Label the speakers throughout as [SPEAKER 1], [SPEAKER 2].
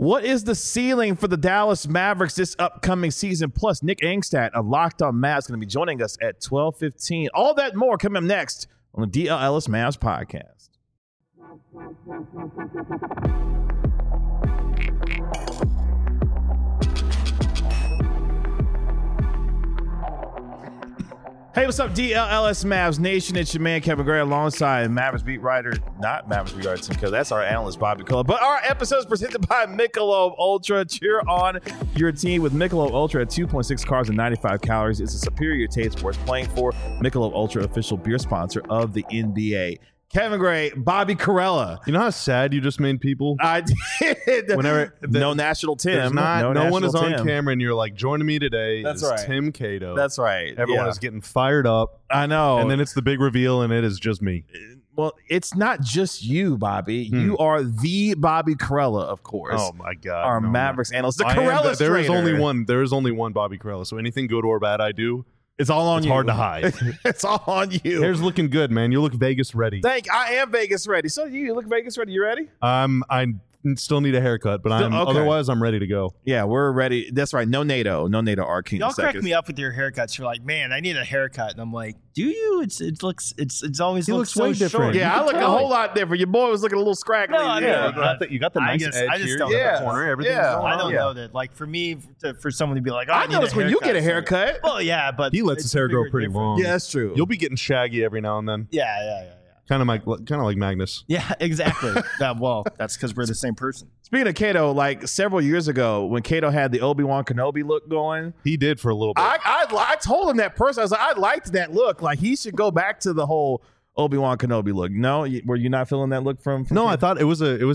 [SPEAKER 1] What is the ceiling for the Dallas Mavericks this upcoming season? Plus, Nick Angstad of Locked On Mavs is going to be joining us at 12:15. All that more coming up next on the DL Ellis Mavs podcast. Hey, what's up, DLLS Mavs Nation? It's your man, Kevin Gray, alongside Mavericks beat writer, not Mavericks beat writer, Tim Keller. That's our analyst, Bobby Cola. But our episode is presented by Michelob Ultra. Cheer on your team with Michelob Ultra at 2.6 carbs and 95 calories. It's a superior taste worth playing for. Michelob Ultra, official beer sponsor of the NBA. Kevin Gray, Bobby Corella.
[SPEAKER 2] You know how sad you just made people?
[SPEAKER 1] I did. No National Tim.
[SPEAKER 2] No one is on camera, and you're like, joining me today is Tim Cato.
[SPEAKER 1] That's right.
[SPEAKER 2] Everyone is getting fired up.
[SPEAKER 1] I know.
[SPEAKER 2] And then it's the big reveal, and it is just me.
[SPEAKER 1] Well, it's not just you, Bobby. You are the Bobby Corella, of course.
[SPEAKER 2] Oh, my God.
[SPEAKER 1] Our Mavericks analyst. The Corella
[SPEAKER 2] There is only one. There is only one Bobby Corella. So anything good or bad I do,
[SPEAKER 1] it's all on you.
[SPEAKER 2] It's hard to hide.
[SPEAKER 1] It's all on you.
[SPEAKER 2] Hair's looking good, man. You look Vegas ready.
[SPEAKER 1] I am Vegas ready. So you look Vegas ready. You ready?
[SPEAKER 2] I still need a haircut, but otherwise I'm ready to go.
[SPEAKER 1] Yeah, we're ready. That's right. No NATO Arcane.
[SPEAKER 3] Y'all crack me up with your haircuts. You're like, man, I need a haircut, and I'm like, do you? It's always looks so
[SPEAKER 2] way different.
[SPEAKER 3] Short.
[SPEAKER 1] Yeah, I look a whole lot different. Your boy was looking a little scraggly.
[SPEAKER 3] No,
[SPEAKER 2] you got the nice edge here.
[SPEAKER 3] Don't
[SPEAKER 2] in the corner. Everything's going on.
[SPEAKER 3] I don't know that. Like for me, for someone to be like,
[SPEAKER 1] I notice when you get a haircut.
[SPEAKER 3] Well, yeah, but
[SPEAKER 2] he lets his hair grow pretty long.
[SPEAKER 1] Yeah, that's true.
[SPEAKER 2] You'll be getting shaggy every now and then.
[SPEAKER 3] Yeah.
[SPEAKER 2] Kind of like Magnus.
[SPEAKER 3] Yeah, exactly. Well, that's because we're the same person.
[SPEAKER 1] Speaking of Cato, like several years ago when Cato had the Obi-Wan Kenobi look going,
[SPEAKER 2] he did for a little bit.
[SPEAKER 1] I told him that person. I was like, I liked that look. Like he should go back to the whole Obi-Wan Kenobi look. No, were you not feeling that look from
[SPEAKER 2] No,
[SPEAKER 1] Cato?
[SPEAKER 2] I thought it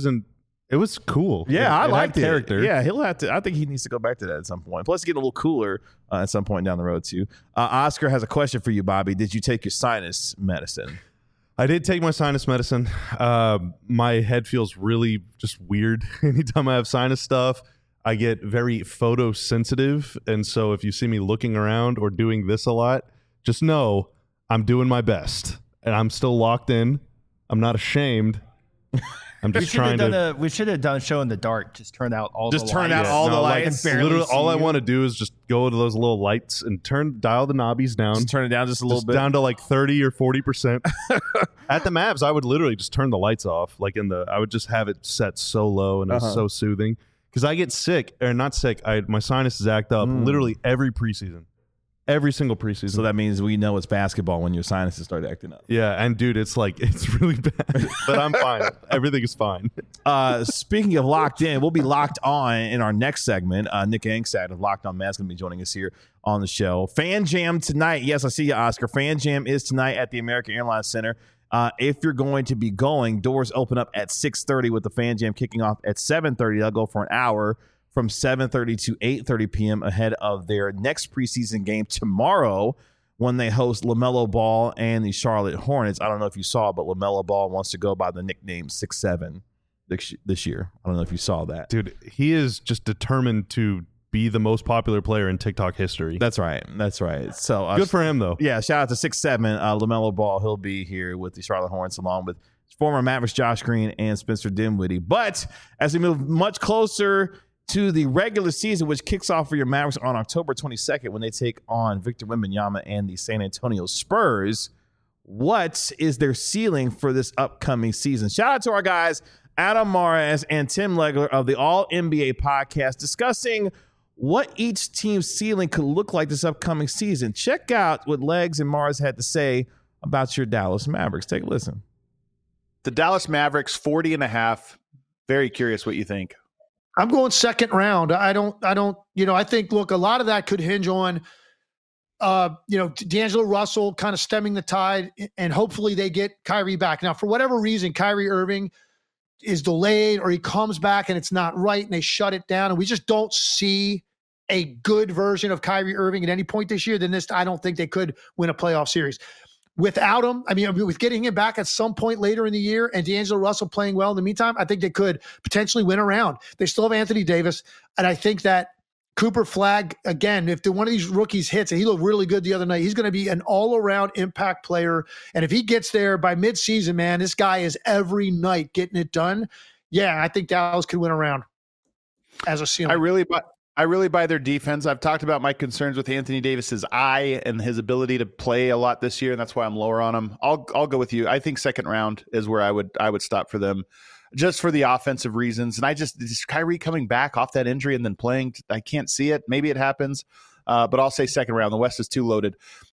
[SPEAKER 2] was cool.
[SPEAKER 1] Yeah, I liked it.
[SPEAKER 2] Character.
[SPEAKER 1] Yeah, he'll have to. I think he needs to go back to that at some point. Plus, get a little cooler at some point down the road too. Oscar has a question for you, Bobby. Did you take your sinus medicine?
[SPEAKER 2] I did take my sinus medicine. My head feels really just weird anytime I have sinus stuff. I get very photosensitive, and so if you see me looking around or doing this a lot, just know I'm doing my best, and I'm still locked in. I'm not ashamed. I'm just trying to.
[SPEAKER 3] We should have done a show in the dark. Just turn out all the lights.
[SPEAKER 2] Literally, all I want to do is just go to those little lights and dial the knobbies down.
[SPEAKER 1] Just turn it down just a little bit.
[SPEAKER 2] Down to like 30 or 40%. At the Mavs, I would literally just turn the lights off. I would just have it set so low, and it's so soothing. Because I get sick, or not sick, my sinuses act up literally every preseason. Every single preseason.
[SPEAKER 1] So that means we know it's basketball when your sinuses start acting up.
[SPEAKER 2] Yeah, and dude, it's really bad. But I'm fine. Everything is fine.
[SPEAKER 1] Speaking of locked in, we'll be locked on in our next segment. Nick Angstad of Locked On Mavs is going to be joining us here on the show. Fan Jam tonight. Yes, I see you, Oscar. Fan Jam is tonight at the American Airlines Center. If you're going to be going, doors open up at 6:30 with the Fan Jam kicking off at 7:30. They'll go for an hour from 7:30 to 8:30 p.m. ahead of their next preseason game tomorrow when they host LaMelo Ball and the Charlotte Hornets. I don't know if you saw, but LaMelo Ball wants to go by the nickname 6'7" this year. I don't know if you saw that.
[SPEAKER 2] Dude, he is just determined to be the most popular player in TikTok history.
[SPEAKER 1] That's right. So
[SPEAKER 2] good for him, though.
[SPEAKER 1] Yeah, shout out to 6'7", LaMelo Ball. He'll be here with the Charlotte Hornets along with former Mavericks Josh Green and Spencer Dinwiddie. But as we move much closer to the regular season, which kicks off for your Mavericks on October 22nd when they take on Victor Wembanyama and the San Antonio Spurs, what is their ceiling for this upcoming season? Shout out to our guys, Adam Mares and Tim Legler of the All-NBA podcast, discussing what each team's ceiling could look like this upcoming season. Check out what Legs and Mars had to say about your Dallas Mavericks. Take a listen.
[SPEAKER 4] The Dallas Mavericks, 40.5. Very curious what you think.
[SPEAKER 5] I'm going second round. I think, look, a lot of that could hinge on, D'Angelo Russell kind of stemming the tide, and hopefully they get Kyrie back. Now, for whatever reason, Kyrie Irving is delayed or he comes back and it's not right and they shut it down, and we just don't see a good version of Kyrie Irving at any point this year, then I don't think they could win a playoff series. Without him, with getting him back at some point later in the year and D'Angelo Russell playing well in the meantime, I think they could potentially win a round. They still have Anthony Davis, and I think that Cooper Flagg, again, if one of these rookies hits, and he looked really good the other night, he's going to be an all-around impact player. And if he gets there by midseason, man, this guy is every night getting it done. Yeah, I think Dallas could win a round. as a ceiling.
[SPEAKER 4] I really buy their defense. I've talked about my concerns with Anthony Davis's eye and his ability to play a lot this year, and that's why I'm lower on him. I'll go with you. I think second round is where I would stop for them, just for the offensive reasons. And just Kyrie coming back off that injury and then playing, I can't see it. Maybe it happens, but I'll say second round. The West is too loaded.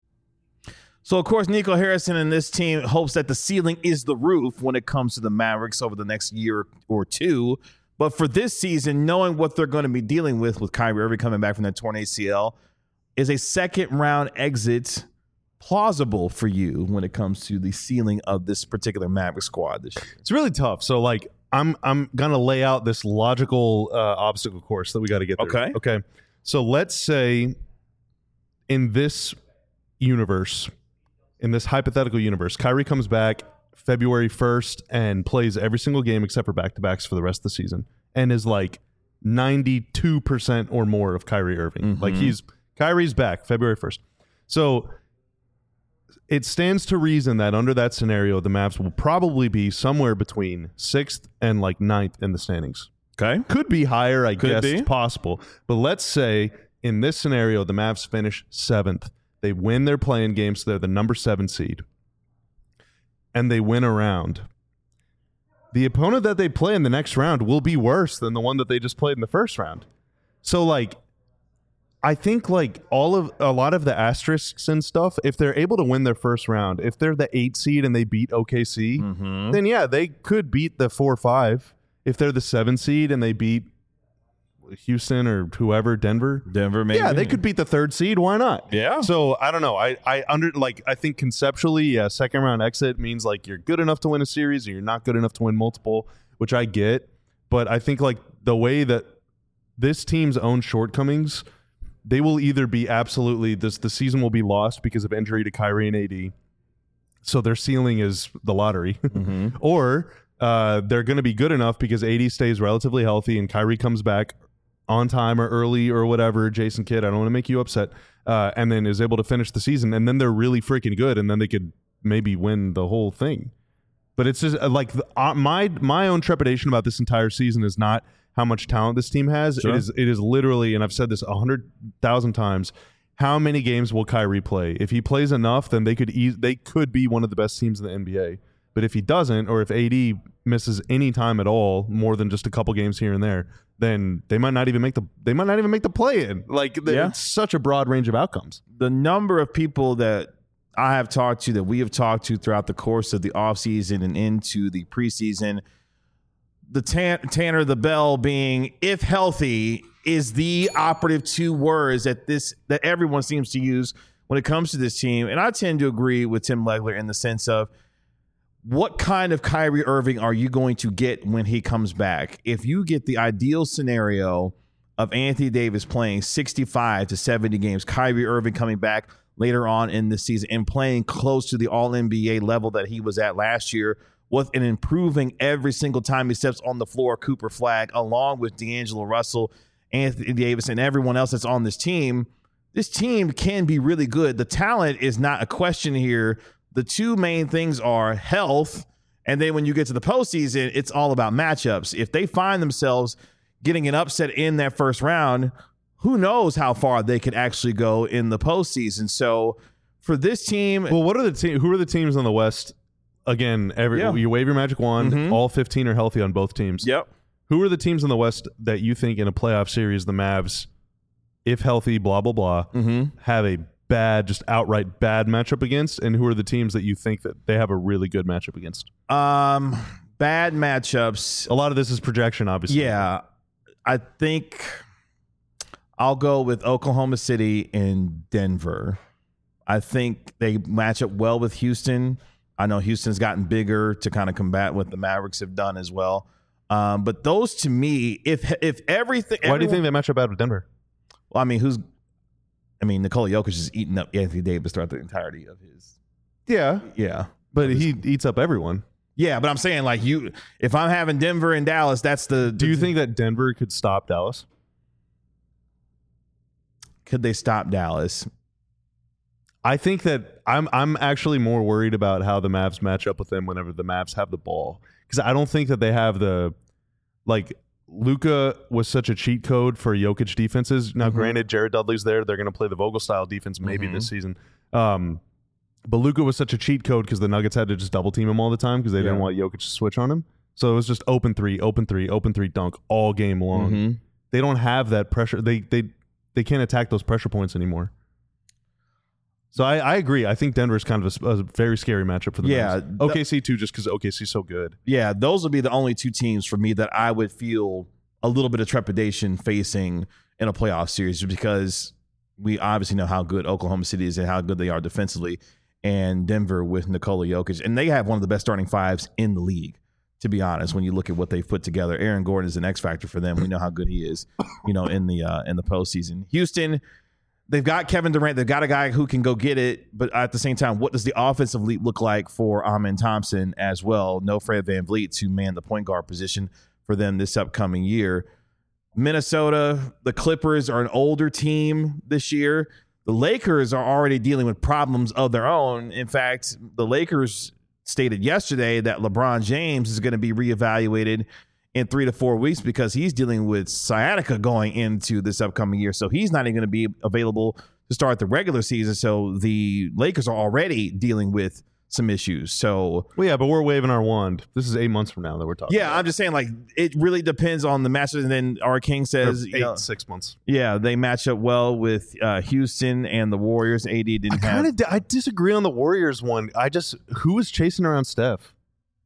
[SPEAKER 1] So, of course, Nico Harrison and this team hopes that the ceiling is the roof when it comes to the Mavericks over the next year or two. But for this season, knowing what they're going to be dealing with Kyrie Irving coming back from that torn ACL, is a second-round exit plausible for you when it comes to the ceiling of this particular Maverick squad this year?
[SPEAKER 2] It's really tough. So, like, I'm gonna lay out this logical obstacle course that we got to get through. Okay. So let's say in this universe, in this hypothetical universe, Kyrie comes back February 1st and plays every single game except for back-to-backs for the rest of the season and is like 92% or more of Kyrie Irving. Like Kyrie's back February 1st. So it stands to reason that under that scenario, the Mavs will probably be somewhere between 6th and like 9th in the standings.
[SPEAKER 1] Okay.
[SPEAKER 2] Could be higher, I guess.
[SPEAKER 1] be.
[SPEAKER 2] It's possible. But let's say in this scenario, the Mavs finish 7th. They win their play-in game, so they're the number 7 seed. And they win a round. The opponent that they play in the next round will be worse than the one that they just played in the first round. So, like, I think, like, a lot of the asterisks and stuff, if they're able to win their first round, if they're the 8 seed and they beat OKC, then, yeah, they could beat the 4-5. If they're the 7 seed and they beat Houston or whoever, Denver,
[SPEAKER 1] maybe.
[SPEAKER 2] Yeah, they could beat the 3rd seed. Why not?
[SPEAKER 1] Yeah.
[SPEAKER 2] So I don't know. I think conceptually, yeah, second round exit means like you're good enough to win a series or you're not good enough to win multiple, which I get. But I think like the way that this team's own shortcomings, they will either be absolutely the season will be lost because of injury to Kyrie and AD. So their ceiling is the lottery, or they're going to be good enough because AD stays relatively healthy and Kyrie comes back on time or early or whatever, Jason Kidd, I don't want to make you upset, and then is able to finish the season, and then they're really freaking good, and then they could maybe win the whole thing. But it's just like my own trepidation about this entire season is not how much talent this team has.
[SPEAKER 1] Sure.
[SPEAKER 2] It is literally, and I've said this 100,000 times, how many games will Kyrie play? If he plays enough, then they could be one of the best teams in the NBA. But if he doesn't, or if AD misses any time at all, more than just a couple games here and there, then they might not even make the play-in. Like, it's such a broad range of outcomes.
[SPEAKER 1] The number of people that I have talked to, that we have talked to throughout the course of the offseason and into the preseason, the Tanner the Bell being, if healthy, is the operative 2 words that everyone seems to use when it comes to this team. And I tend to agree with Tim Legler in the sense of, what kind of Kyrie Irving are you going to get when he comes back? If you get the ideal scenario of Anthony Davis playing 65 to 70 games, Kyrie Irving coming back later on in the season and playing close to the All-NBA level that he was at last year, with an improving every single time he steps on the floor, Cooper Flagg, along with D'Angelo Russell, Anthony Davis, and everyone else that's on this team can be really good. The talent is not a question here. The 2 main things are health, and then when you get to the postseason, it's all about matchups. If they find themselves getting an upset in that first round, who knows how far they could actually go in the postseason. So for this team,
[SPEAKER 2] well, who are the teams on the West? Again, you wave your magic wand. All 15 are healthy on both teams.
[SPEAKER 1] Yep.
[SPEAKER 2] Who are the teams on the West that you think in a playoff series the Mavs, if healthy, blah blah blah, have a just outright bad matchup against, and who are the teams that you think that they have a really good matchup against?
[SPEAKER 1] Bad matchups.
[SPEAKER 2] A lot of this is projection, obviously.
[SPEAKER 1] Yeah. I think I'll go with Oklahoma City and Denver. I think they match up well with Houston. I know Houston's gotten bigger to kind of combat what the Mavericks have done as well. But those, to me, if everything...
[SPEAKER 2] Why do you think they match up bad with Denver?
[SPEAKER 1] Well, I mean, Nikola Jokic is eating up Anthony Davis throughout the entirety of his... Yeah.
[SPEAKER 2] But he eats up everyone.
[SPEAKER 1] Yeah, but I'm saying, like, if I'm having Denver and Dallas, that's the...
[SPEAKER 2] Do you think that Denver could stop Dallas?
[SPEAKER 1] Could they stop Dallas?
[SPEAKER 2] I think that I'm actually more worried about how the Mavs match up with them whenever the Mavs have the ball. Because I don't think that they have the... Like, Luka was such a cheat code for Jokic defenses. Now, granted, Jared Dudley's there. They're going to play the Vogel style defense maybe this season. But Luka was such a cheat code because the Nuggets had to just double team him all the time because they didn't want Jokic to switch on him. So it was just open three, dunk all game long. They don't have that pressure. They can't attack those pressure points anymore. So I agree. I think Denver's kind of a very scary matchup for the Mavs. OKC too, just because OKC's so good.
[SPEAKER 1] Yeah, those would be the only two teams for me that I would feel a little bit of trepidation facing in a playoff series because we obviously know how good Oklahoma City is and how good they are defensively, and Denver with Nikola Jokic. And they have one of the best starting fives in the league, to be honest, when you look at what they've put together. Aaron Gordon is an X factor for them. We know how good he is, in the postseason. Houston, they've got Kevin Durant. They've got a guy who can go get it. But at the same time, what does the offensive leap look like for Amen Thompson as well? No Fred VanVleet to man the point guard position for them this upcoming year. Minnesota, the Clippers are an older team this year. The Lakers are already dealing with problems of their own. In fact, the Lakers stated yesterday that LeBron James is going to be reevaluated in 3 to 4 weeks because he's dealing with sciatica going into this upcoming year. So he's not even going to be available to start the regular season. So the Lakers are already dealing with some issues. So,
[SPEAKER 2] well, yeah, but we're waving our wand. This is 8 months from now that we're talking.
[SPEAKER 1] Yeah, about. I'm just saying, like, it really depends on the matchup. And then our King says,
[SPEAKER 2] 6 months.
[SPEAKER 1] Yeah, they match up well with Houston and the Warriors. AD didn't have.
[SPEAKER 2] I disagree on the Warriors one. Who was chasing around Steph?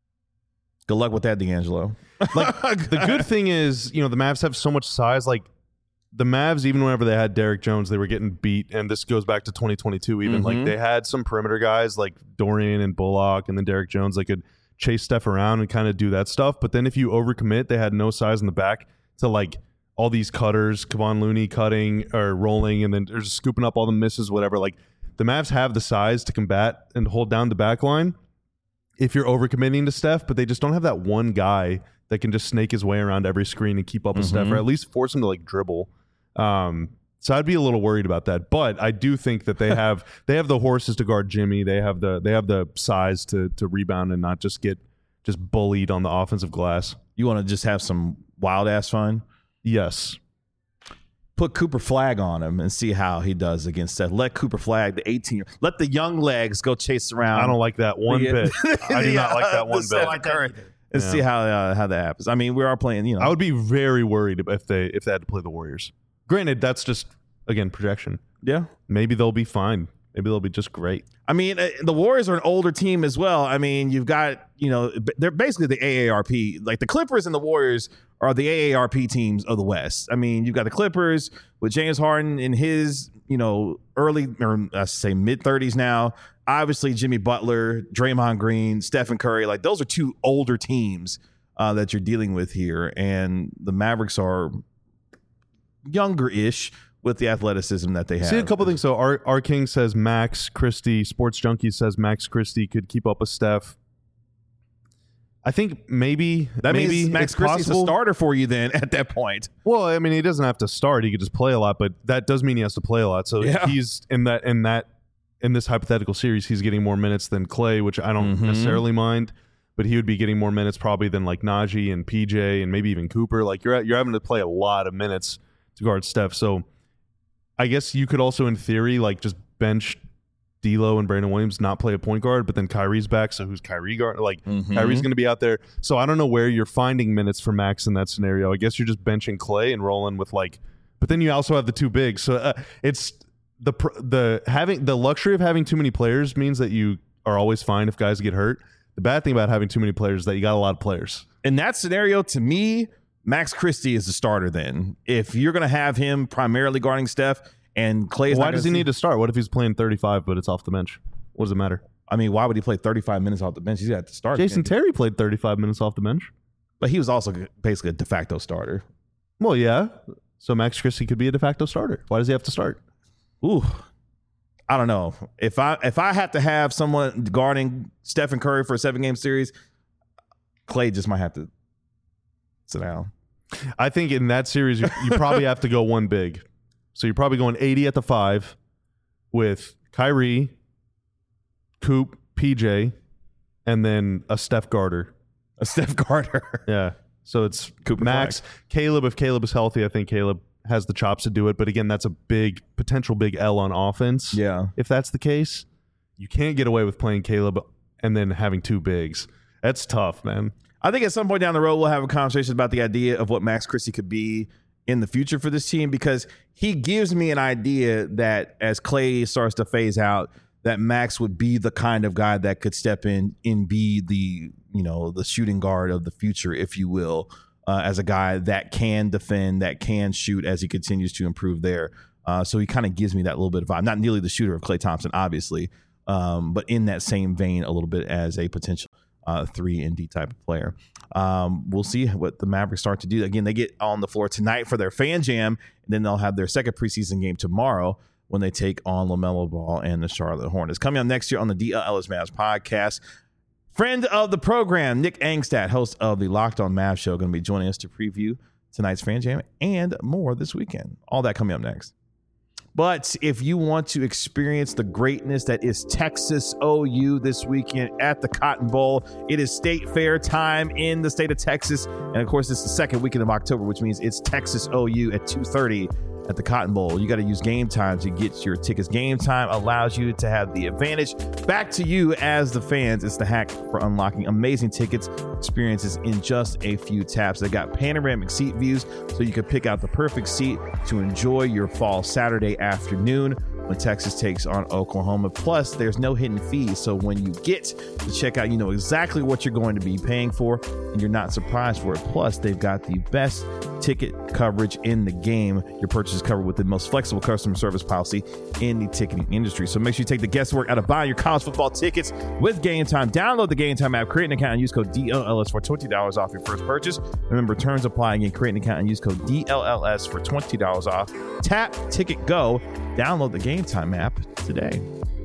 [SPEAKER 1] Good luck with that, D'Angelo.
[SPEAKER 2] Like, the good thing is, the Mavs have so much size. Like, the Mavs, even whenever they had Derek Jones, they were getting beat. And this goes back to 2022 even. Like, they had some perimeter guys like Dorian and Bullock and then Derek Jones that could chase Steph around and kind of do that stuff. But then if you overcommit, they had no size in the back to, like, all these cutters, Kevon Looney cutting or rolling, and then they're just scooping up all the misses, whatever. Like, the Mavs have the size to combat and hold down the back line if you're overcommitting to Steph, but they just don't have that one guy that can just snake his way around every screen and keep up with Steph, or at least force him to, like, dribble. So I'd be a little worried about that, but I do think that they have the horses to guard Jimmy. They have the size to rebound and not just get bullied on the offensive glass.
[SPEAKER 1] You want to just have some wild ass fun?
[SPEAKER 2] Yes.
[SPEAKER 1] Put Cooper Flagg on him and see how he does against Steph. Let Cooper Flagg, the 18-year, let the young legs go chase around.
[SPEAKER 2] I don't like that one bit. I do not like that one bit.
[SPEAKER 1] And see how that happens. I mean, we are playing.
[SPEAKER 2] I would be very worried if they had to play the Warriors. Granted, that's just, again, projection.
[SPEAKER 1] Yeah.
[SPEAKER 2] Maybe they'll be fine. Maybe they'll be just great.
[SPEAKER 1] I mean, the Warriors are an older team as well. I mean, you've got, they're basically the AARP. Like, the Clippers and the Warriors are the AARP teams of the West. I mean, you've got the Clippers with James Harden in his, early, or I say mid-30s now. Obviously, Jimmy Butler, Draymond Green, Stephen Curry. Like, those are two older teams that you're dealing with here. And the Mavericks are younger-ish with the athleticism that they have.
[SPEAKER 2] See a couple things. So our King says Max Christie. Sports Junkie says Max Christie could keep up with Steph. I think maybe
[SPEAKER 1] means Max Christie's a starter for you then at that point.
[SPEAKER 2] Well, I mean, he doesn't have to start. He could just play a lot, but that does mean he has to play a lot. So if he's in this hypothetical series, he's getting more minutes than Clay, which I don't necessarily mind. But he would be getting more minutes probably than like Najee and PJ and maybe even Cooper. Like, you're having to play a lot of minutes to guard Steph. So I guess you could also, in theory, like, just bench D'Lo and Brandon Williams, not play a point guard, but then Kyrie's back. So who's Kyrie guard? Like, Kyrie's going to be out there. So I don't know where you're finding minutes for Max in that scenario. I guess you're just benching Clay and rolling with, like, but then you also have the two bigs. So it's the luxury of having too many players means that you are always fine if guys get hurt. The bad thing about having too many players is that you got a lot of players.
[SPEAKER 1] In that scenario, to me, Max Christie is the starter then. If you're going to have him primarily guarding Steph and Clay is
[SPEAKER 2] why does he need to start? What if he's playing 35 but it's off the bench? What does it matter?
[SPEAKER 1] I mean, why would he play 35 minutes off the bench? He's got to start.
[SPEAKER 2] Jason Terry played 35 minutes off the bench.
[SPEAKER 1] But he was also basically a de facto starter.
[SPEAKER 2] Well, yeah. So Max Christie could be a de facto starter. Why does he have to start?
[SPEAKER 1] Ooh. I don't know. If I have to have someone guarding Stephen Curry for a 7-game series, Clay just might have to sit down.
[SPEAKER 2] I think in that series, you probably have to go one big. So you're probably going 80 at the 5 with Kyrie, Coop, PJ, and then a Steph Garter.
[SPEAKER 1] A Steph Garter.
[SPEAKER 2] Yeah. So it's
[SPEAKER 1] Cooper
[SPEAKER 2] Max, Caleb. If Caleb is healthy, I think Caleb has the chops to do it. But again, that's a potential big L on offense.
[SPEAKER 1] Yeah.
[SPEAKER 2] If that's the case, you can't get away with playing Caleb and then having two bigs. That's tough, man.
[SPEAKER 1] I think at some point down the road, we'll have a conversation about the idea of what Max Christie could be in the future for this team, because he gives me an idea that as Clay starts to phase out, that Max would be the kind of guy that could step in and be the shooting guard of the future, if you will, as a guy that can defend, that can shoot as he continues to improve there. So he kind of gives me that little bit of vibe. Not nearly the shooter of Klay Thompson, obviously, but in that same vein a little bit as a potential 3-and-D type of player. We'll see what the Mavericks start to do. Again, they get on the floor tonight for their fan jam, and then they'll have their second preseason game tomorrow when they take on LaMelo Ball and the Charlotte Hornets. Coming up next year on the DLLS Mavs podcast, friend of the program, Nick Angstadt, host of the Locked On Mavs show, going to be joining us to preview tonight's fan jam and more this weekend. All that coming up next. But if you want to experience the greatness that is Texas OU this weekend at the Cotton Bowl, it is State Fair time in the state of Texas. And of course, it's the second weekend of October, which means it's Texas OU at 2:30 at the Cotton Bowl. You got to use Game Time to get your tickets. Game Time allows you to have the advantage. Back to you as the fans. It's the hack for unlocking amazing tickets experiences in just a few taps. They got panoramic seat views, so you can pick out the perfect seat to enjoy your fall Saturday afternoon when Texas takes on Oklahoma. Plus, there's no hidden fees, so when you get to check out, you know exactly what you're going to be paying for, and you're not surprised for it. Plus, they've got the best ticket coverage in the game. Your purchase is covered with the most flexible customer service policy in the ticketing industry. So make sure you take the guesswork out of buying your college football tickets with Game Time. Download the Game Time app, create an account, and use code DLLS for $20 off your first purchase. Remember, terms apply. Again, create an account and use code DLLS for $20 off. Tap, ticket, go. Download the Game Time app today.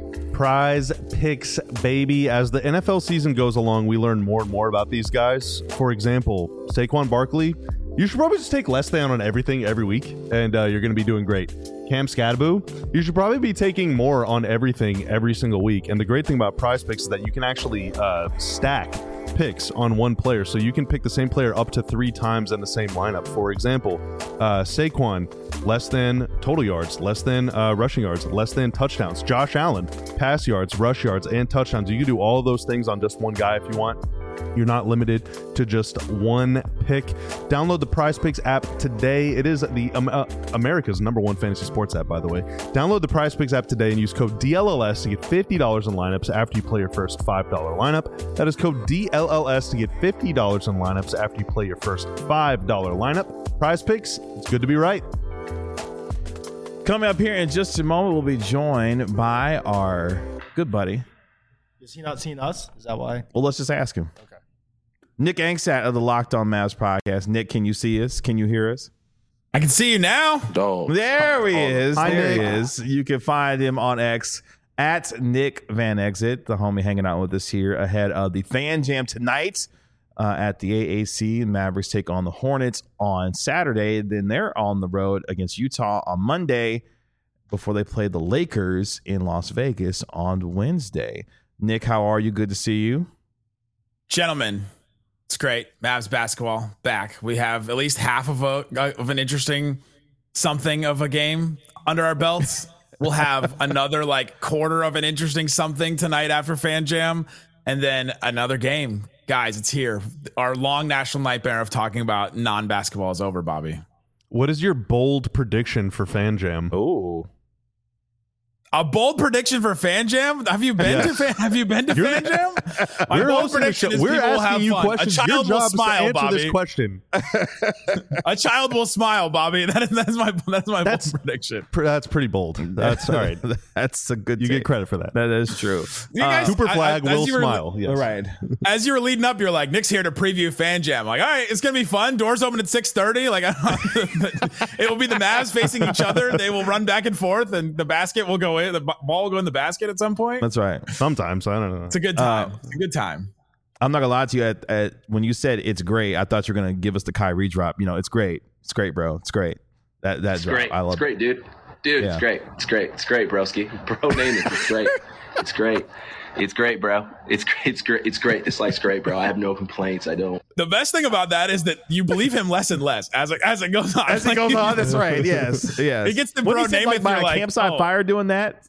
[SPEAKER 2] Prize Picks, baby. As the NFL season goes along, we learn more and more about these guys. For example, Saquon Barkley, you should probably just take less than on everything every week, and you're going to be doing great. Cam Skadaboo, you should probably be taking more on everything every single week. And the great thing about Prize Picks is that you can actually stack picks on one player, so you can pick the same player up to 3 times in the same lineup. For example, Saquon, less than total yards, less than rushing yards, less than touchdowns. Josh Allen, pass yards, rush yards, and touchdowns. You can do all of those things on just one guy if you want. You're not limited to just one pick. Download the Prize Picks app today. It is the America's #1 fantasy sports app, by the way. Download the Prize Picks app today and use code DLLS to get $50 in lineups after you play your first $5 lineup. That is code DLLS to get $50 in lineups after you play your first $5 lineup. Prize Picks, it's good to be right.
[SPEAKER 1] Coming up here in just a moment, we'll be joined by our good buddy.
[SPEAKER 3] Has he not seen us? Is that why?
[SPEAKER 1] Well, let's just ask him.
[SPEAKER 3] Okay.
[SPEAKER 1] Nick Angstadt of the Locked On Mavs podcast. Nick, can you see us? Can you hear us?
[SPEAKER 6] I can see you now.
[SPEAKER 1] There he is.
[SPEAKER 2] Hi,
[SPEAKER 1] There he
[SPEAKER 2] Nick.
[SPEAKER 1] is. You can find him on X at Nick Van Exit, the homie hanging out with us here ahead of the Fan Jam tonight at the AAC. Mavericks take on the Hornets on Saturday. Then they're on the road against Utah on Monday before they play the Lakers in Las Vegas on Wednesday. Nick, how are you? Good to see you.
[SPEAKER 6] Gentlemen, it's great. Mavs basketball back. We have at least half of an interesting something of a game under our belts. We'll have another quarter of an interesting something tonight after Fan Jam, and then another game. Guys, it's here. Our long national nightmare of talking about non-basketball is over, Bobby.
[SPEAKER 2] What is your bold prediction for Fan Jam?
[SPEAKER 1] Oh,
[SPEAKER 6] A bold prediction for Fan Jam? Have you been to Fan Jam? My
[SPEAKER 2] We're
[SPEAKER 6] bold
[SPEAKER 2] hosting a
[SPEAKER 6] prediction
[SPEAKER 2] show.
[SPEAKER 6] is
[SPEAKER 2] We're
[SPEAKER 6] people will have
[SPEAKER 2] asking you
[SPEAKER 6] fun.
[SPEAKER 2] questions.
[SPEAKER 6] A
[SPEAKER 2] Your
[SPEAKER 6] child will
[SPEAKER 2] job is to
[SPEAKER 6] smile,
[SPEAKER 2] answer
[SPEAKER 6] Bobby.
[SPEAKER 2] this question.
[SPEAKER 6] A child will smile, Bobby. That's my bold prediction.
[SPEAKER 2] That's pretty bold. That's all right.
[SPEAKER 1] that's a good
[SPEAKER 2] You
[SPEAKER 1] take.
[SPEAKER 2] get credit for that.
[SPEAKER 1] That is true.
[SPEAKER 6] You guys-
[SPEAKER 2] Cooper Flag
[SPEAKER 6] as
[SPEAKER 2] will
[SPEAKER 6] you were-
[SPEAKER 2] smile. Yes.
[SPEAKER 1] All right.
[SPEAKER 6] As you were leading up, you're like, Nick's here to preview Fan Jam. Like, all right, it's gonna be fun. Doors open at 6:30. It will be the Mavs facing each other. They will run back and forth, and the basket will go in. The ball will go in the basket at some point.
[SPEAKER 1] That's right.
[SPEAKER 2] Sometimes I don't know.
[SPEAKER 6] It's a good time. It's a good time.
[SPEAKER 1] I'm not gonna lie to you. At when you said it's great, I thought you were gonna give us the Kyrie drop. You know, it's great. It's great, bro. It's great. That
[SPEAKER 7] It's
[SPEAKER 1] drop.
[SPEAKER 7] great.
[SPEAKER 1] I love
[SPEAKER 7] It's great, dude. Dude,
[SPEAKER 1] Yeah.
[SPEAKER 7] it's great. It's great. It's great, broski. Bro, name it. It's great. It's great. It's great, bro. It's great. It's great. It's great. This life's great, bro. I have no complaints. I don't.
[SPEAKER 6] The best thing about that is that you believe him less and less as it goes on.
[SPEAKER 1] As it goes on, that's right. Yes, yes.
[SPEAKER 6] He gets the
[SPEAKER 1] When
[SPEAKER 6] bro
[SPEAKER 1] he said,
[SPEAKER 6] name
[SPEAKER 1] like,
[SPEAKER 6] it,
[SPEAKER 1] by
[SPEAKER 6] you're
[SPEAKER 1] a
[SPEAKER 6] like,
[SPEAKER 1] campsite
[SPEAKER 6] oh.
[SPEAKER 1] fire doing that.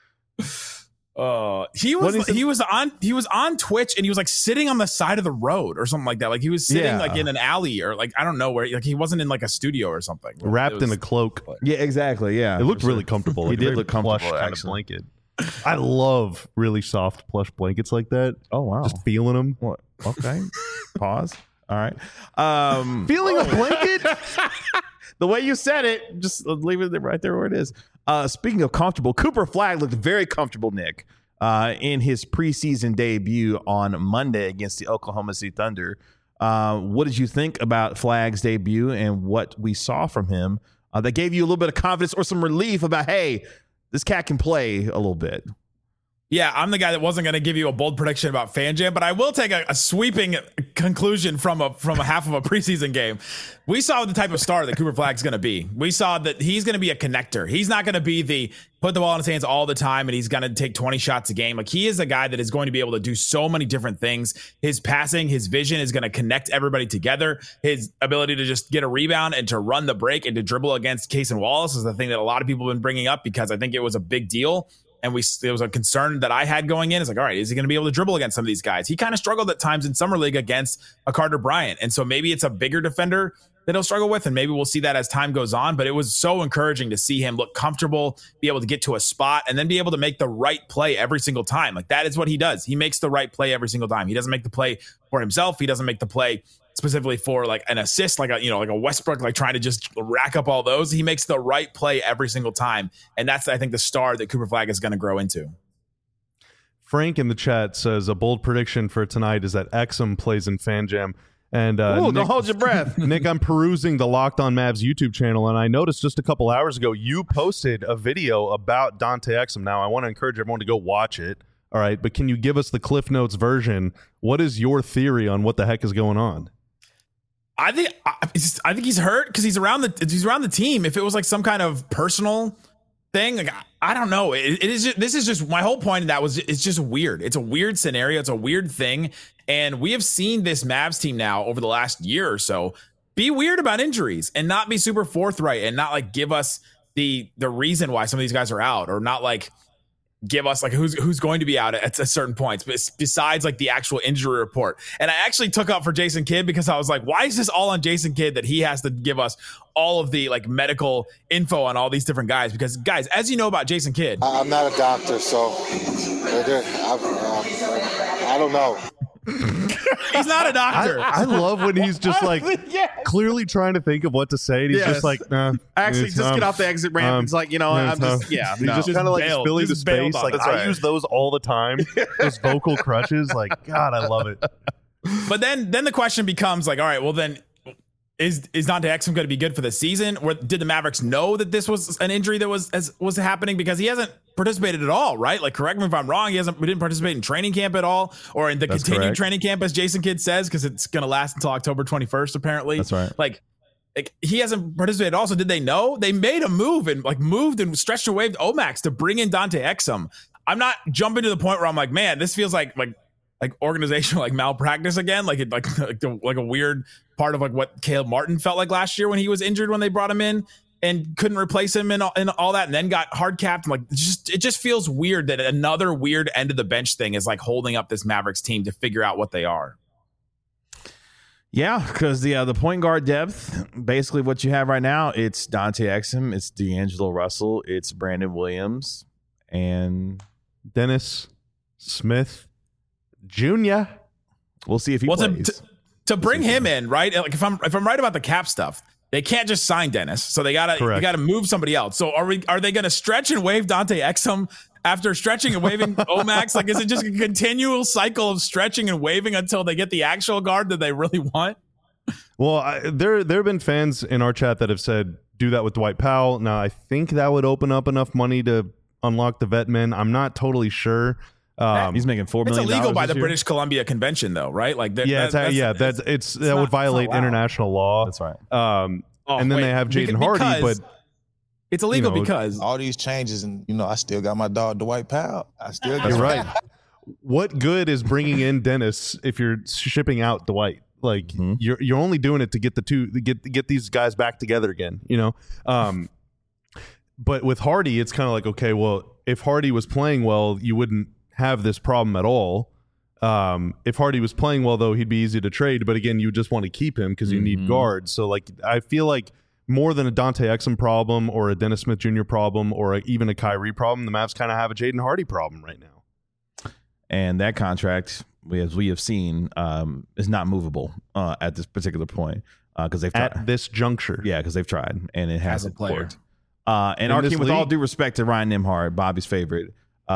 [SPEAKER 6] He was on Twitch and he was like sitting on the side of the road or something like that. Like he was sitting
[SPEAKER 1] Yeah.
[SPEAKER 6] like in an alley or like I don't know where. Like he wasn't in like a studio or something.
[SPEAKER 2] Wrapped
[SPEAKER 6] It was-
[SPEAKER 2] in a cloak.
[SPEAKER 1] Yeah, exactly. Yeah,
[SPEAKER 2] It looked really comfortable.
[SPEAKER 1] He
[SPEAKER 2] Like a
[SPEAKER 1] did
[SPEAKER 2] very
[SPEAKER 1] look comfortable,
[SPEAKER 2] plush kind of
[SPEAKER 1] actually.
[SPEAKER 2] blanket. I love really soft plush blankets like that.
[SPEAKER 1] Oh wow.
[SPEAKER 2] Just feeling them.
[SPEAKER 1] What? Okay. Pause. All right.
[SPEAKER 2] Feeling a blanket?
[SPEAKER 1] The way you said it, just leave it right there where it is. Speaking of comfortable, Cooper Flagg looked very comfortable, Nick, in his preseason debut on Monday against the Oklahoma City Thunder. What did you think about Flagg's debut and what we saw from him that gave you a little bit of confidence or some relief about, hey, this cat can play a little bit?
[SPEAKER 6] Yeah, I'm the guy that wasn't going to give you a bold prediction about FanJam, but I will take a sweeping conclusion from a half of a preseason game. We saw the type of star that Cooper Flagg's going to be. We saw that he's going to be a connector. He's not going to be the put the ball in his hands all the time and he's going to take 20 shots a game. Like he is a guy that is going to be able to do so many different things. His passing, his vision is going to connect everybody together. His ability to just get a rebound and to run the break and to dribble against Case and Wallace is the thing that a lot of people have been bringing up because I think it was a big deal. And there was a concern that I had going in. It's like, all right, is he going to be able to dribble against some of these guys? He kind of struggled at times in Summer League against a Carter Bryant. And so maybe it's a bigger defender that he'll struggle with. And maybe we'll see that as time goes on. But it was so encouraging to see him look comfortable, be able to get to a spot, and then be able to make the right play every single time. Like that is what he does. He makes the right play every single time. He doesn't make the play for himself. He doesn't make the play specifically for like an assist, like a Westbrook, like trying to just rack up all those. He makes the right play every single time. And that's, I think, the star that Cooper Flagg is going to grow into.
[SPEAKER 2] Frank in the chat says a bold prediction for tonight is that Exum plays in FanJam. And
[SPEAKER 1] Ooh,
[SPEAKER 2] Nick,
[SPEAKER 1] don't hold your breath.
[SPEAKER 2] Nick, I'm perusing the Locked On Mavs YouTube channel, and I noticed just a couple hours ago you posted a video about Dante Exum. Now, I want to encourage everyone to go watch it. All right, but can you give us the Cliff Notes version? What is your theory on what the heck is going on?
[SPEAKER 6] I think he's hurt because he's around the team. If it was like some kind of personal thing, like I don't know. This is just my whole point. Of that was it's just weird. It's a weird scenario. It's a weird thing, and we have seen this Mavs team now over the last year or so be weird about injuries and not be super forthright and not like give us the reason why some of these guys are out or not like give us like who's going to be out at certain points, but besides like the actual injury report. And I actually took up for Jason Kidd because I was like, why is this all on Jason Kidd that he has to give us all of the like medical info on all these different guys? Because guys, as you know about Jason Kidd,
[SPEAKER 8] I'm not a doctor, so I don't know.
[SPEAKER 6] he's not a doctor.
[SPEAKER 2] I love when he's just like clearly trying to think of what to say. And he's just like, nah.
[SPEAKER 1] Actually,
[SPEAKER 2] it's,
[SPEAKER 1] just get off the exit ramp. It's like, I'm just,
[SPEAKER 2] He's
[SPEAKER 1] no.
[SPEAKER 2] just kind of like
[SPEAKER 6] bailed.
[SPEAKER 2] spilling the
[SPEAKER 6] Just bailed
[SPEAKER 2] space.
[SPEAKER 6] on
[SPEAKER 2] Like
[SPEAKER 6] it.
[SPEAKER 2] I use those all the time. Those vocal crutches. Like, God, I love it.
[SPEAKER 6] But then the question becomes like, all right, well then is Dante Exum going to be good for the season? Or did the Mavericks know that this was an injury that was happening? Because he hasn't participated at all, right? Like, correct me if I'm wrong. We didn't participate in training camp at all, or in the continued
[SPEAKER 2] correct.
[SPEAKER 6] training camp, as Jason Kidd says, because it's going to last until October 21st, apparently.
[SPEAKER 1] That's right.
[SPEAKER 6] Like he hasn't participated at all. So did they know? They made a move and like moved and stretched and waved Omax to bring in Dante Exum. I'm not jumping to the point where I'm like, man, this feels like organizational like malpractice again, like a weird part of like what Caleb Martin felt like last year when he was injured when they brought him in and couldn't replace him and all that, and then got hard capped. And like it just feels weird that another weird end of the bench thing is like holding up this Mavericks team to figure out what they are.
[SPEAKER 1] Yeah, because the point guard depth, basically what you have right now, it's Dante Exum, it's D'Angelo Russell, it's Brandon Williams, and
[SPEAKER 2] Dennis Smith Jr.
[SPEAKER 1] We'll see if he plays.
[SPEAKER 6] To bring him in, right? Like if I'm right about the cap stuff, they can't just sign Dennis, so they gotta move somebody else. So are they gonna stretch and waive Dante Exum after stretching and waving Omax? Like, is it just a continual cycle of stretching and waving until they get the actual guard that they really want?
[SPEAKER 2] Well, there have been fans in our chat that have said do that with Dwight Powell. Now, I think that would open up enough money to unlock the vet men. I'm not totally sure.
[SPEAKER 1] He's making $4 million.
[SPEAKER 6] It's illegal by the
[SPEAKER 1] this year.
[SPEAKER 6] British Columbia Convention, though, right? Like, that
[SPEAKER 2] would violate international law.
[SPEAKER 1] That's right.
[SPEAKER 2] And then they have Jaden Hardy, but
[SPEAKER 6] It's illegal because
[SPEAKER 9] all these changes, and I still got my dog Dwight Powell. I still got
[SPEAKER 2] You're right. What good is bringing in Dennis if you're shipping out Dwight? Like you're only doing it to get get these guys back together again, But with Hardy, it's kind of like, okay, well, if Hardy was playing well, you wouldn't have this problem at all. If Hardy was playing well, though, he'd be easy to trade. But again, you just want to keep him because you need guards. So like, I feel like more than a Dante Exum problem or a Dennis Smith Jr. problem or even a Kyrie problem, the Mavs kind of have a Jaden Hardy problem right now.
[SPEAKER 1] And that contract, as we have seen, is not movable at this particular point because they've tried.
[SPEAKER 2] At this juncture.
[SPEAKER 1] Yeah, because they've tried, and it hasn't worked. And
[SPEAKER 2] In
[SPEAKER 1] our
[SPEAKER 2] this
[SPEAKER 1] team, with all
[SPEAKER 2] league-
[SPEAKER 1] due respect to Ryan Nembhard, Bobby's favorite,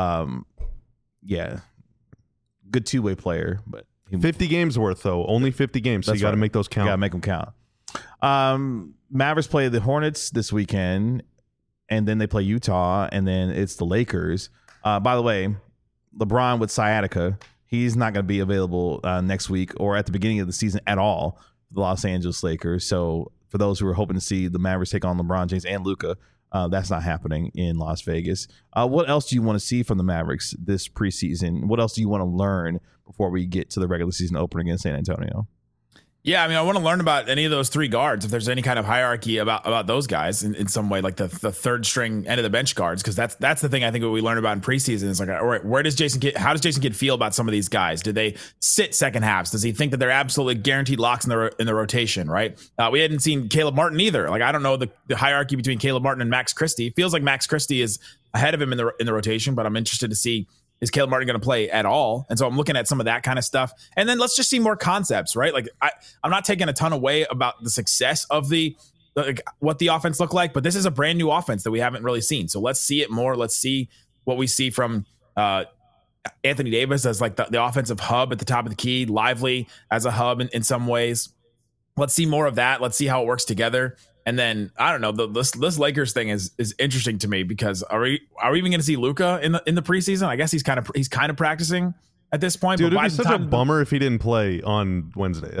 [SPEAKER 1] good two-way player, but
[SPEAKER 2] 50 games worth, though. Only 50 games, so you got to make those count.
[SPEAKER 1] You got to make them count. Mavericks play the Hornets this weekend, and then they play Utah, and then it's the Lakers. By the way, LeBron with sciatica, he's not going to be available next week or at the beginning of the season at all for the Los Angeles Lakers. So for those who are hoping to see the Mavericks take on LeBron James and Luka, that's not happening in Las Vegas. What else do you want to see from the Mavericks this preseason? What else do you want to learn before we get to the regular season opener against San Antonio?
[SPEAKER 6] Yeah, I mean, I want to learn about any of those three guards, if there's any kind of hierarchy about those guys in some way, like the third string end of the bench guards, because that's the thing I think what we learned about in preseason is like, all right, how does Jason Kidd feel about some of these guys? Do they sit second halves? Does he think that they're absolutely guaranteed locks in the rotation? Right? We hadn't seen Caleb Martin either. Like, I don't know the hierarchy between Caleb Martin and Max Christie. It feels like Max Christie is ahead of him in the rotation, but I'm interested to see, is Caleb Martin going to play at all? And so I'm looking at some of that kind of stuff. And then let's just see more concepts, right? Like I'm not taking a ton away about the success of what the offense looked like, but this is a brand new offense that we haven't really seen. So let's see it more. Let's see what we see from Anthony Davis as like the offensive hub at the top of the key, Lively as a hub in some ways. Let's see more of that. Let's see how it works together. And then I don't know, this Lakers thing is interesting to me because are we even going to see Luka in the preseason? I guess he's kind of practicing at this point.
[SPEAKER 2] Dude,
[SPEAKER 6] but
[SPEAKER 2] it'd be such a bummer if he didn't play on Wednesday.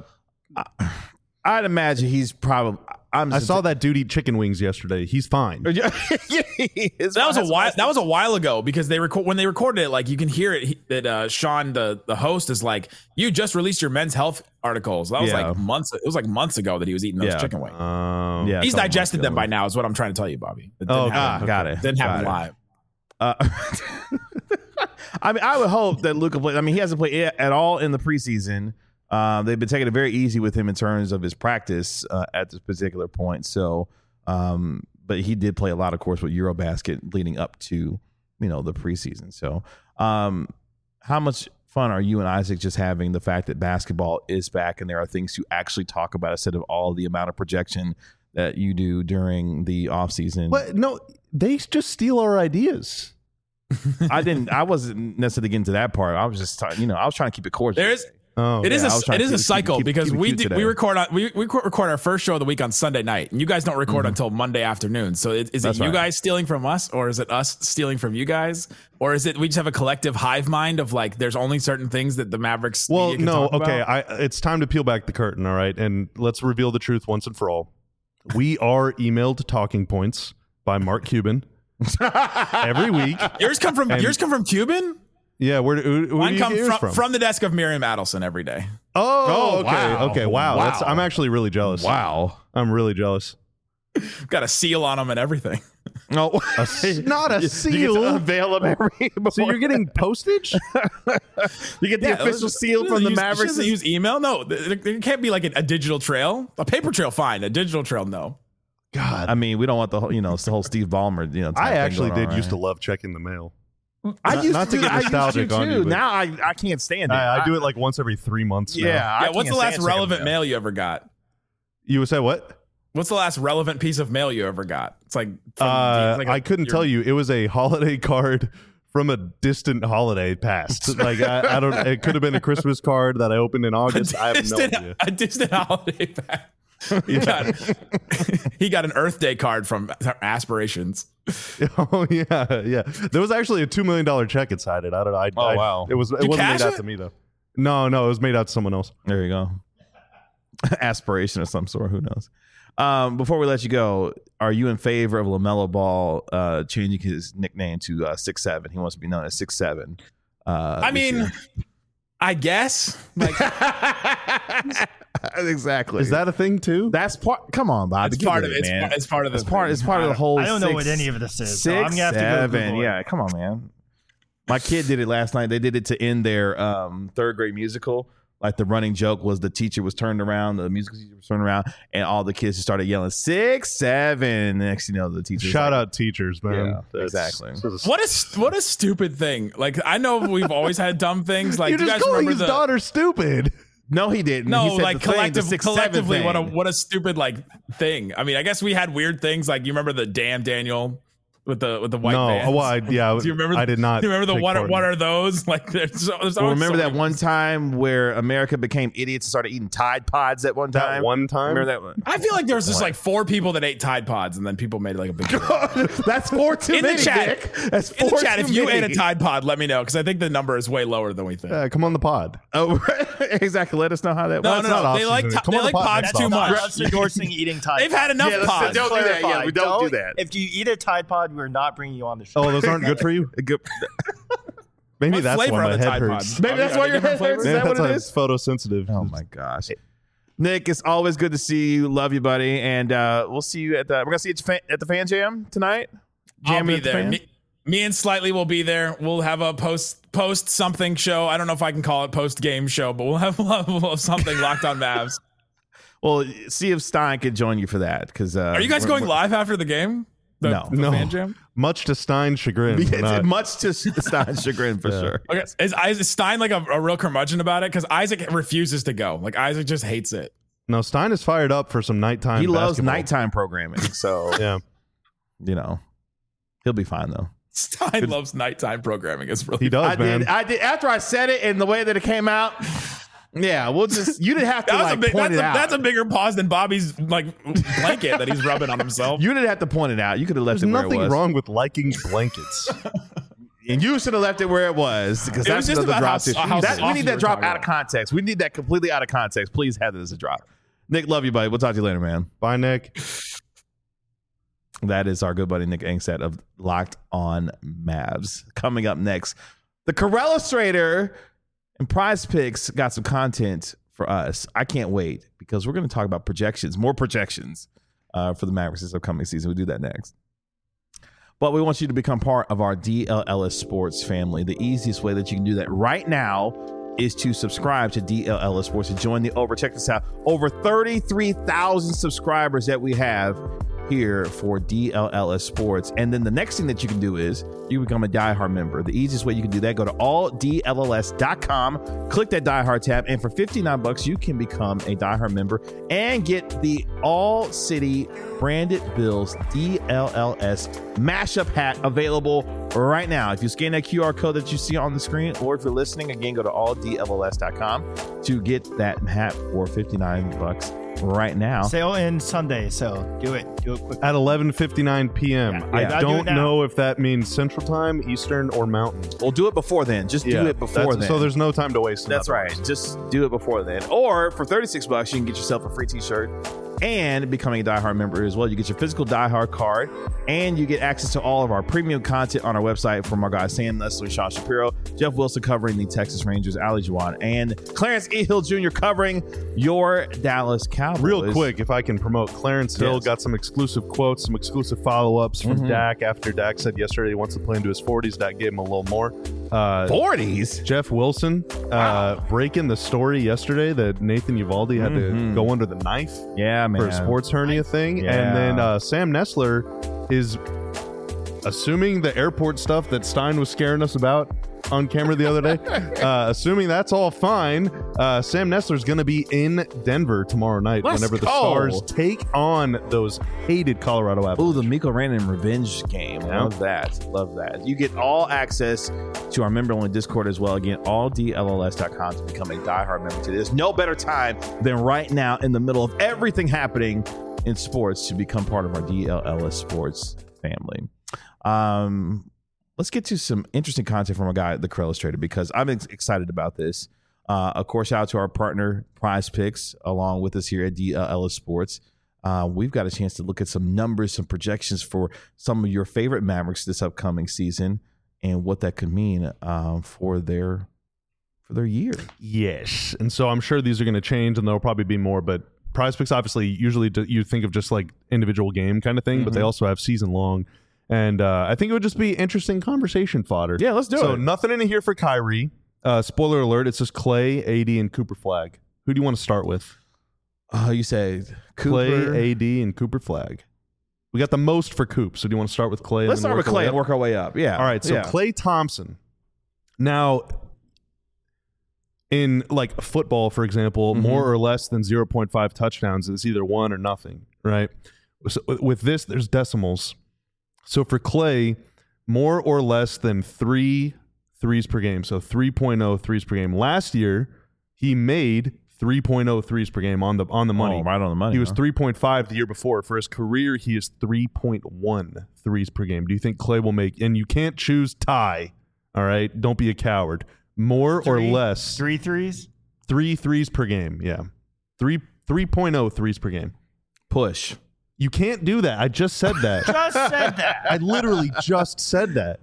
[SPEAKER 1] I'd imagine he's probably.
[SPEAKER 2] I saw that dude eat chicken wings yesterday. He's fine.
[SPEAKER 6] That was a while ago because when they recorded it, like you can hear it that Sean the host is like, you just released your men's health articles. That was like months. It was like months ago that he was eating those chicken wings. He's digested them by now. Is what I'm trying to tell you, Bobby.
[SPEAKER 1] Got it.
[SPEAKER 6] Didn't happen live.
[SPEAKER 1] I mean, I would hope that Luka plays. I mean, he hasn't played at all in the preseason. They've been taking it very easy with him in terms of his practice at this particular point. So, but he did play a lot, of course, with Eurobasket leading up to, the preseason. So, how much fun are you and Isaac just having the fact that basketball is back and there are things to actually talk about instead of all the amount of projection that you do during the offseason?
[SPEAKER 2] But no, they just steal our ideas.
[SPEAKER 1] I wasn't necessarily getting to that part. I was just, I was trying to keep it cordial.
[SPEAKER 6] It is a cycle because we record our first show of the week on Sunday night, and you guys don't record until Monday afternoon. So is it you guys stealing from us, or is it us stealing from you guys, or is it we just have a collective hive mind of like there's only certain things that the Mavericks?
[SPEAKER 2] Well,
[SPEAKER 6] can
[SPEAKER 2] no,
[SPEAKER 6] talk
[SPEAKER 2] okay,
[SPEAKER 6] about?
[SPEAKER 2] It's time to peel back the curtain, all right, and let's reveal the truth once and for all. We are emailed talking points by Mark Cuban every week.
[SPEAKER 6] Yours come from Cuban.
[SPEAKER 2] Yeah, where do you get yours
[SPEAKER 6] from the desk of Miriam Adelson every day.
[SPEAKER 2] Oh, okay,
[SPEAKER 1] wow.
[SPEAKER 2] okay, wow. I'm actually really jealous.
[SPEAKER 1] Wow,
[SPEAKER 2] I'm really jealous.
[SPEAKER 6] Got a seal on them and everything.
[SPEAKER 1] No,
[SPEAKER 2] not a seal.
[SPEAKER 1] You get to unveil them every.
[SPEAKER 2] So you're getting postage?
[SPEAKER 1] You get the official seal from the Mavericks.
[SPEAKER 6] Use email? No, there can't be like a digital trail. A paper trail, fine. A digital trail, no.
[SPEAKER 1] God, I mean, we don't want the whole, it's the whole Steve Ballmer.
[SPEAKER 2] I actually did used to love checking the mail.
[SPEAKER 1] I used
[SPEAKER 2] not to get nostalgic on you.
[SPEAKER 1] Now I can't stand it.
[SPEAKER 2] I do it like once every 3 months.
[SPEAKER 1] Yeah.
[SPEAKER 6] What's the last relevant mail you ever got?
[SPEAKER 2] You would say what?
[SPEAKER 6] What's the last relevant piece of mail you ever got? It's like
[SPEAKER 2] I couldn't tell you. It was a holiday card from a distant holiday past. Like I don't. It could have been a Christmas card that I opened in August. I have no idea.
[SPEAKER 6] A distant holiday past. He got an Earth Day card from Aspirations.
[SPEAKER 2] Oh yeah. There was actually a $2 million check inside it. I don't know.
[SPEAKER 1] Wow.
[SPEAKER 2] It wasn't made out to me though. No, it was made out to someone else.
[SPEAKER 1] There you go. Aspiration of some sort. Who knows? Before we let you go, are you in favor of LaMelo Ball changing his nickname to 6'7"? He wants to be known as 6'7".
[SPEAKER 6] I mean, I guess. Like,
[SPEAKER 1] exactly.
[SPEAKER 2] Is that a thing too?
[SPEAKER 1] That's part. Come on, Bob.
[SPEAKER 6] it's part of it.
[SPEAKER 1] man.
[SPEAKER 6] It's part of the
[SPEAKER 1] It's part of the whole.
[SPEAKER 3] I don't know what any of this is. So I'm gonna have to go Google it.
[SPEAKER 1] Yeah, come on, man. My kid did it last night. They did it to end their third grade musical. Like the running joke was the teacher was turned around, the musical teacher was turned around, and all the kids just started yelling 6'7". Next, you know, the teacher.
[SPEAKER 2] Shout out teachers, man.
[SPEAKER 1] Yeah, exactly.
[SPEAKER 6] What a stupid thing. Like, I know we've always had dumb things. Like,
[SPEAKER 2] You're
[SPEAKER 6] do you
[SPEAKER 2] just
[SPEAKER 6] guys
[SPEAKER 2] calling
[SPEAKER 6] remember
[SPEAKER 2] his daughter stupid.
[SPEAKER 1] No, he didn't.
[SPEAKER 6] No,
[SPEAKER 1] he said
[SPEAKER 6] like
[SPEAKER 1] the thing, the 6'7"
[SPEAKER 6] collectively,
[SPEAKER 1] thing.
[SPEAKER 6] what a stupid like thing. I mean, I guess we had weird things. Like, you remember the damn Daniel with the white vans?
[SPEAKER 2] No, well,
[SPEAKER 6] Do you remember?
[SPEAKER 2] I did not.
[SPEAKER 6] Do you remember the
[SPEAKER 2] take
[SPEAKER 6] what
[SPEAKER 2] part in
[SPEAKER 6] are
[SPEAKER 2] it.
[SPEAKER 6] those? Like, there's
[SPEAKER 1] Well,
[SPEAKER 6] always
[SPEAKER 1] remember
[SPEAKER 6] so
[SPEAKER 1] that
[SPEAKER 6] many-
[SPEAKER 1] one time where America became idiots and started eating Tide Pods at one time?
[SPEAKER 2] That one time?
[SPEAKER 1] Remember that one?
[SPEAKER 6] I feel like there was just like 4 people that ate Tide Pods, and then people made like a big deal.
[SPEAKER 1] That's 4 too
[SPEAKER 6] In the
[SPEAKER 1] many,
[SPEAKER 6] chat.
[SPEAKER 1] Nick. That's
[SPEAKER 6] In
[SPEAKER 1] 4
[SPEAKER 6] the chat,
[SPEAKER 1] too
[SPEAKER 6] if you
[SPEAKER 1] many.
[SPEAKER 6] ate a Tide Pod, let me know, because I think the number is way lower than we think.
[SPEAKER 2] Come on the pod.
[SPEAKER 1] Oh, exactly. Let us know how that
[SPEAKER 6] No,
[SPEAKER 1] was.
[SPEAKER 6] no, no. They
[SPEAKER 2] off
[SPEAKER 6] like
[SPEAKER 2] season. Come
[SPEAKER 6] they
[SPEAKER 2] on the
[SPEAKER 6] like
[SPEAKER 2] pod
[SPEAKER 6] pods
[SPEAKER 2] next
[SPEAKER 6] too
[SPEAKER 2] month.
[SPEAKER 6] much.
[SPEAKER 3] Us endorsing eating Tide
[SPEAKER 6] They've had enough
[SPEAKER 1] Yeah, let's-
[SPEAKER 6] pods.
[SPEAKER 1] don't do that. Yeah, we don't do that.
[SPEAKER 3] If you eat a Tide Pod, we're not bringing you on the show.
[SPEAKER 2] Oh, those aren't good for you?
[SPEAKER 1] Good.
[SPEAKER 2] Maybe
[SPEAKER 6] What
[SPEAKER 2] that's
[SPEAKER 6] flavor
[SPEAKER 2] why
[SPEAKER 6] are
[SPEAKER 2] my
[SPEAKER 6] the
[SPEAKER 2] head
[SPEAKER 6] Tide
[SPEAKER 2] hurts.
[SPEAKER 6] Pods?
[SPEAKER 1] Maybe that's why your head hurts. Is
[SPEAKER 2] Maybe
[SPEAKER 1] that what
[SPEAKER 2] that's
[SPEAKER 1] it
[SPEAKER 2] why
[SPEAKER 1] is?
[SPEAKER 2] it's photosensitive.
[SPEAKER 1] Oh my gosh, Nick, it's always good to see you. Love you, buddy, and we'll see you at the. We're gonna see you at the Fan Jam tonight.
[SPEAKER 6] I'll
[SPEAKER 1] Jamming
[SPEAKER 6] be
[SPEAKER 1] at the
[SPEAKER 6] there.
[SPEAKER 1] Fan?
[SPEAKER 6] Me and Slightly will be there. We'll have a post something show. I don't know if I can call it post game show, but we'll have something locked on Mavs.
[SPEAKER 1] Well, see if Stein could join you for that. Because
[SPEAKER 6] Are you guys going live after the game? The Fan Jam?
[SPEAKER 2] Much to Stein's chagrin. we're
[SPEAKER 1] It's
[SPEAKER 2] not.
[SPEAKER 1] much to Stein's chagrin for sure.
[SPEAKER 6] Okay, is Stein like a real curmudgeon about it? Because Isaac refuses to go. Like, Isaac just hates it.
[SPEAKER 2] No, Stein is fired up for some nighttime.
[SPEAKER 1] He loves
[SPEAKER 2] basketball.
[SPEAKER 1] nighttime programming, so
[SPEAKER 2] Yeah.
[SPEAKER 1] you know he'll be fine though.
[SPEAKER 6] Stein loves nighttime programming. It's really
[SPEAKER 2] He does, man.
[SPEAKER 1] I did after I said it and the way that it came out. Yeah, we'll just you didn't have to point it out.
[SPEAKER 6] That's a bigger pause than Bobby's like blanket that he's rubbing on himself.
[SPEAKER 1] You didn't have to point it out. You could have left
[SPEAKER 2] There's
[SPEAKER 1] it where
[SPEAKER 2] nothing
[SPEAKER 1] it was.
[SPEAKER 2] wrong with liking blankets.
[SPEAKER 1] And you should have left it where it was because
[SPEAKER 6] It was
[SPEAKER 1] that's
[SPEAKER 6] just
[SPEAKER 1] another
[SPEAKER 6] about
[SPEAKER 1] drop.
[SPEAKER 6] how
[SPEAKER 1] We
[SPEAKER 6] soft
[SPEAKER 1] need
[SPEAKER 6] you
[SPEAKER 1] that
[SPEAKER 6] were
[SPEAKER 1] drop
[SPEAKER 6] talking
[SPEAKER 1] out of context. We need that completely out of context. Please have it as a drop. Nick, love you, buddy. We'll talk to you later, man.
[SPEAKER 2] Bye, Nick.
[SPEAKER 1] That is our good buddy Nick Angstad of Locked On Mavs. Coming up next, the Corellustrator and Prize Picks got some content for us. I can't wait because we're going to talk about projections, more projections for the Mavericks this upcoming season. We'll do that next. But we want you to become part of our DLLS Sports family. The easiest way that you can do that right now is to subscribe to DLLS Sports and join the check this out, over 33,000 subscribers that we have here for DLLS Sports. And then the next thing that you can do is you become a diehard member. The easiest way you can do that, go to alldlls.com, click that diehard tab, and for $59 you can become a diehard member and get the All City Branded Bills DLLS mashup hat available right now. If you scan that QR code that you see on the screen, or if you're listening, again, go to alldlls.com to get that hat for $59 right now.
[SPEAKER 3] Sale ends Sunday, so do it quick.
[SPEAKER 2] At 11:59 p.m.
[SPEAKER 3] Yeah.
[SPEAKER 2] I
[SPEAKER 3] Gotta do
[SPEAKER 2] don't
[SPEAKER 3] it now.
[SPEAKER 2] know if that means Central Time, Eastern, or Mountain.
[SPEAKER 1] We'll do it before then. Just do it before then.
[SPEAKER 2] So there's no time to waste. in
[SPEAKER 1] That's
[SPEAKER 2] other
[SPEAKER 1] right.
[SPEAKER 2] words.
[SPEAKER 1] Just do it before then. Or for $36, you can get yourself a free t-shirt and becoming a diehard member as well. You get your physical diehard card and you get access to all of our premium content on our website from our guys Sam Nestle, Sean Shapiro, Jeff Wilson covering the Texas Rangers, Ali Juwan, and Clarence E. Hill Jr. covering your Dallas Cowboys.
[SPEAKER 2] Real quick, if I can promote, Clarence Hill
[SPEAKER 1] Yes.
[SPEAKER 2] got some exclusive quotes, some exclusive follow-ups from Dak after Dak said yesterday he wants to play into his 40s. Dak gave him a little more.
[SPEAKER 1] 40s?
[SPEAKER 2] Jeff Wilson breaking the story yesterday that Nathan Uvalde had to go under the knife
[SPEAKER 1] Yeah, man.
[SPEAKER 2] for a sports hernia thing.
[SPEAKER 1] Yeah.
[SPEAKER 2] And then Sam Nessler is assuming the airport stuff that Stein was scaring us about on camera the other day, assuming that's all fine, Sam Nessler's going to be in Denver tomorrow night
[SPEAKER 1] Let's
[SPEAKER 2] whenever the
[SPEAKER 1] go.
[SPEAKER 2] Stars take on those hated Colorado
[SPEAKER 1] Ooh,
[SPEAKER 2] Avalanche.
[SPEAKER 1] the Miko Rannon revenge game.
[SPEAKER 2] Yeah.
[SPEAKER 1] Love that. Love that. You get all access to our member-only Discord as well. Again, alldlls.com to become a diehard member today. There's no better time than right now in the middle of everything happening in sports to become part of our DLLS Sports family. Let's get to some interesting content from our guy, the Corellustrator, because I'm excited about this. Of course, shout out to our partner, Prize Picks, along with us here at DLLS Sports. we've got a chance to look at some numbers, some projections for some of your favorite Mavericks this upcoming season and what that could mean for their year.
[SPEAKER 2] Yes. And so I'm sure these are going to change and there'll probably be more, but Prize Picks obviously usually you think of just like individual game kind of thing, but they also have season long. And I think it would just be interesting conversation fodder.
[SPEAKER 1] Yeah, let's do it.
[SPEAKER 2] So nothing in here for Kyrie. Spoiler alert, it's just Clay, AD, and Cooper Flag. Who do you want to start with?
[SPEAKER 1] You say Cooper.
[SPEAKER 2] Clay, AD, and Cooper Flag. We got the most for Coop, so do you want to start with Clay?
[SPEAKER 1] Let's start with Clay and work our way up. Yeah.
[SPEAKER 2] All right, so Clay Thompson. Now, in like football, for example, more or less than 0.5 touchdowns is either one or nothing, right? So with this, there's decimals. So for Clay, more or less than 3 threes per game, so 3.0 threes per game. Last year, he made 3.0 threes per game on the money.
[SPEAKER 1] Oh, right on the money.
[SPEAKER 2] He was 3.5 the year before. For his career, he is 3.1 threes per game. Do you think Clay will make, and you can't choose tie, all right? Don't be a coward. More or less.
[SPEAKER 3] 3 threes?
[SPEAKER 2] 3 threes per game, yeah. 3.0 threes per game.
[SPEAKER 1] Push.
[SPEAKER 2] You can't do that. I just said that.
[SPEAKER 3] Just said that.
[SPEAKER 2] I literally just said that.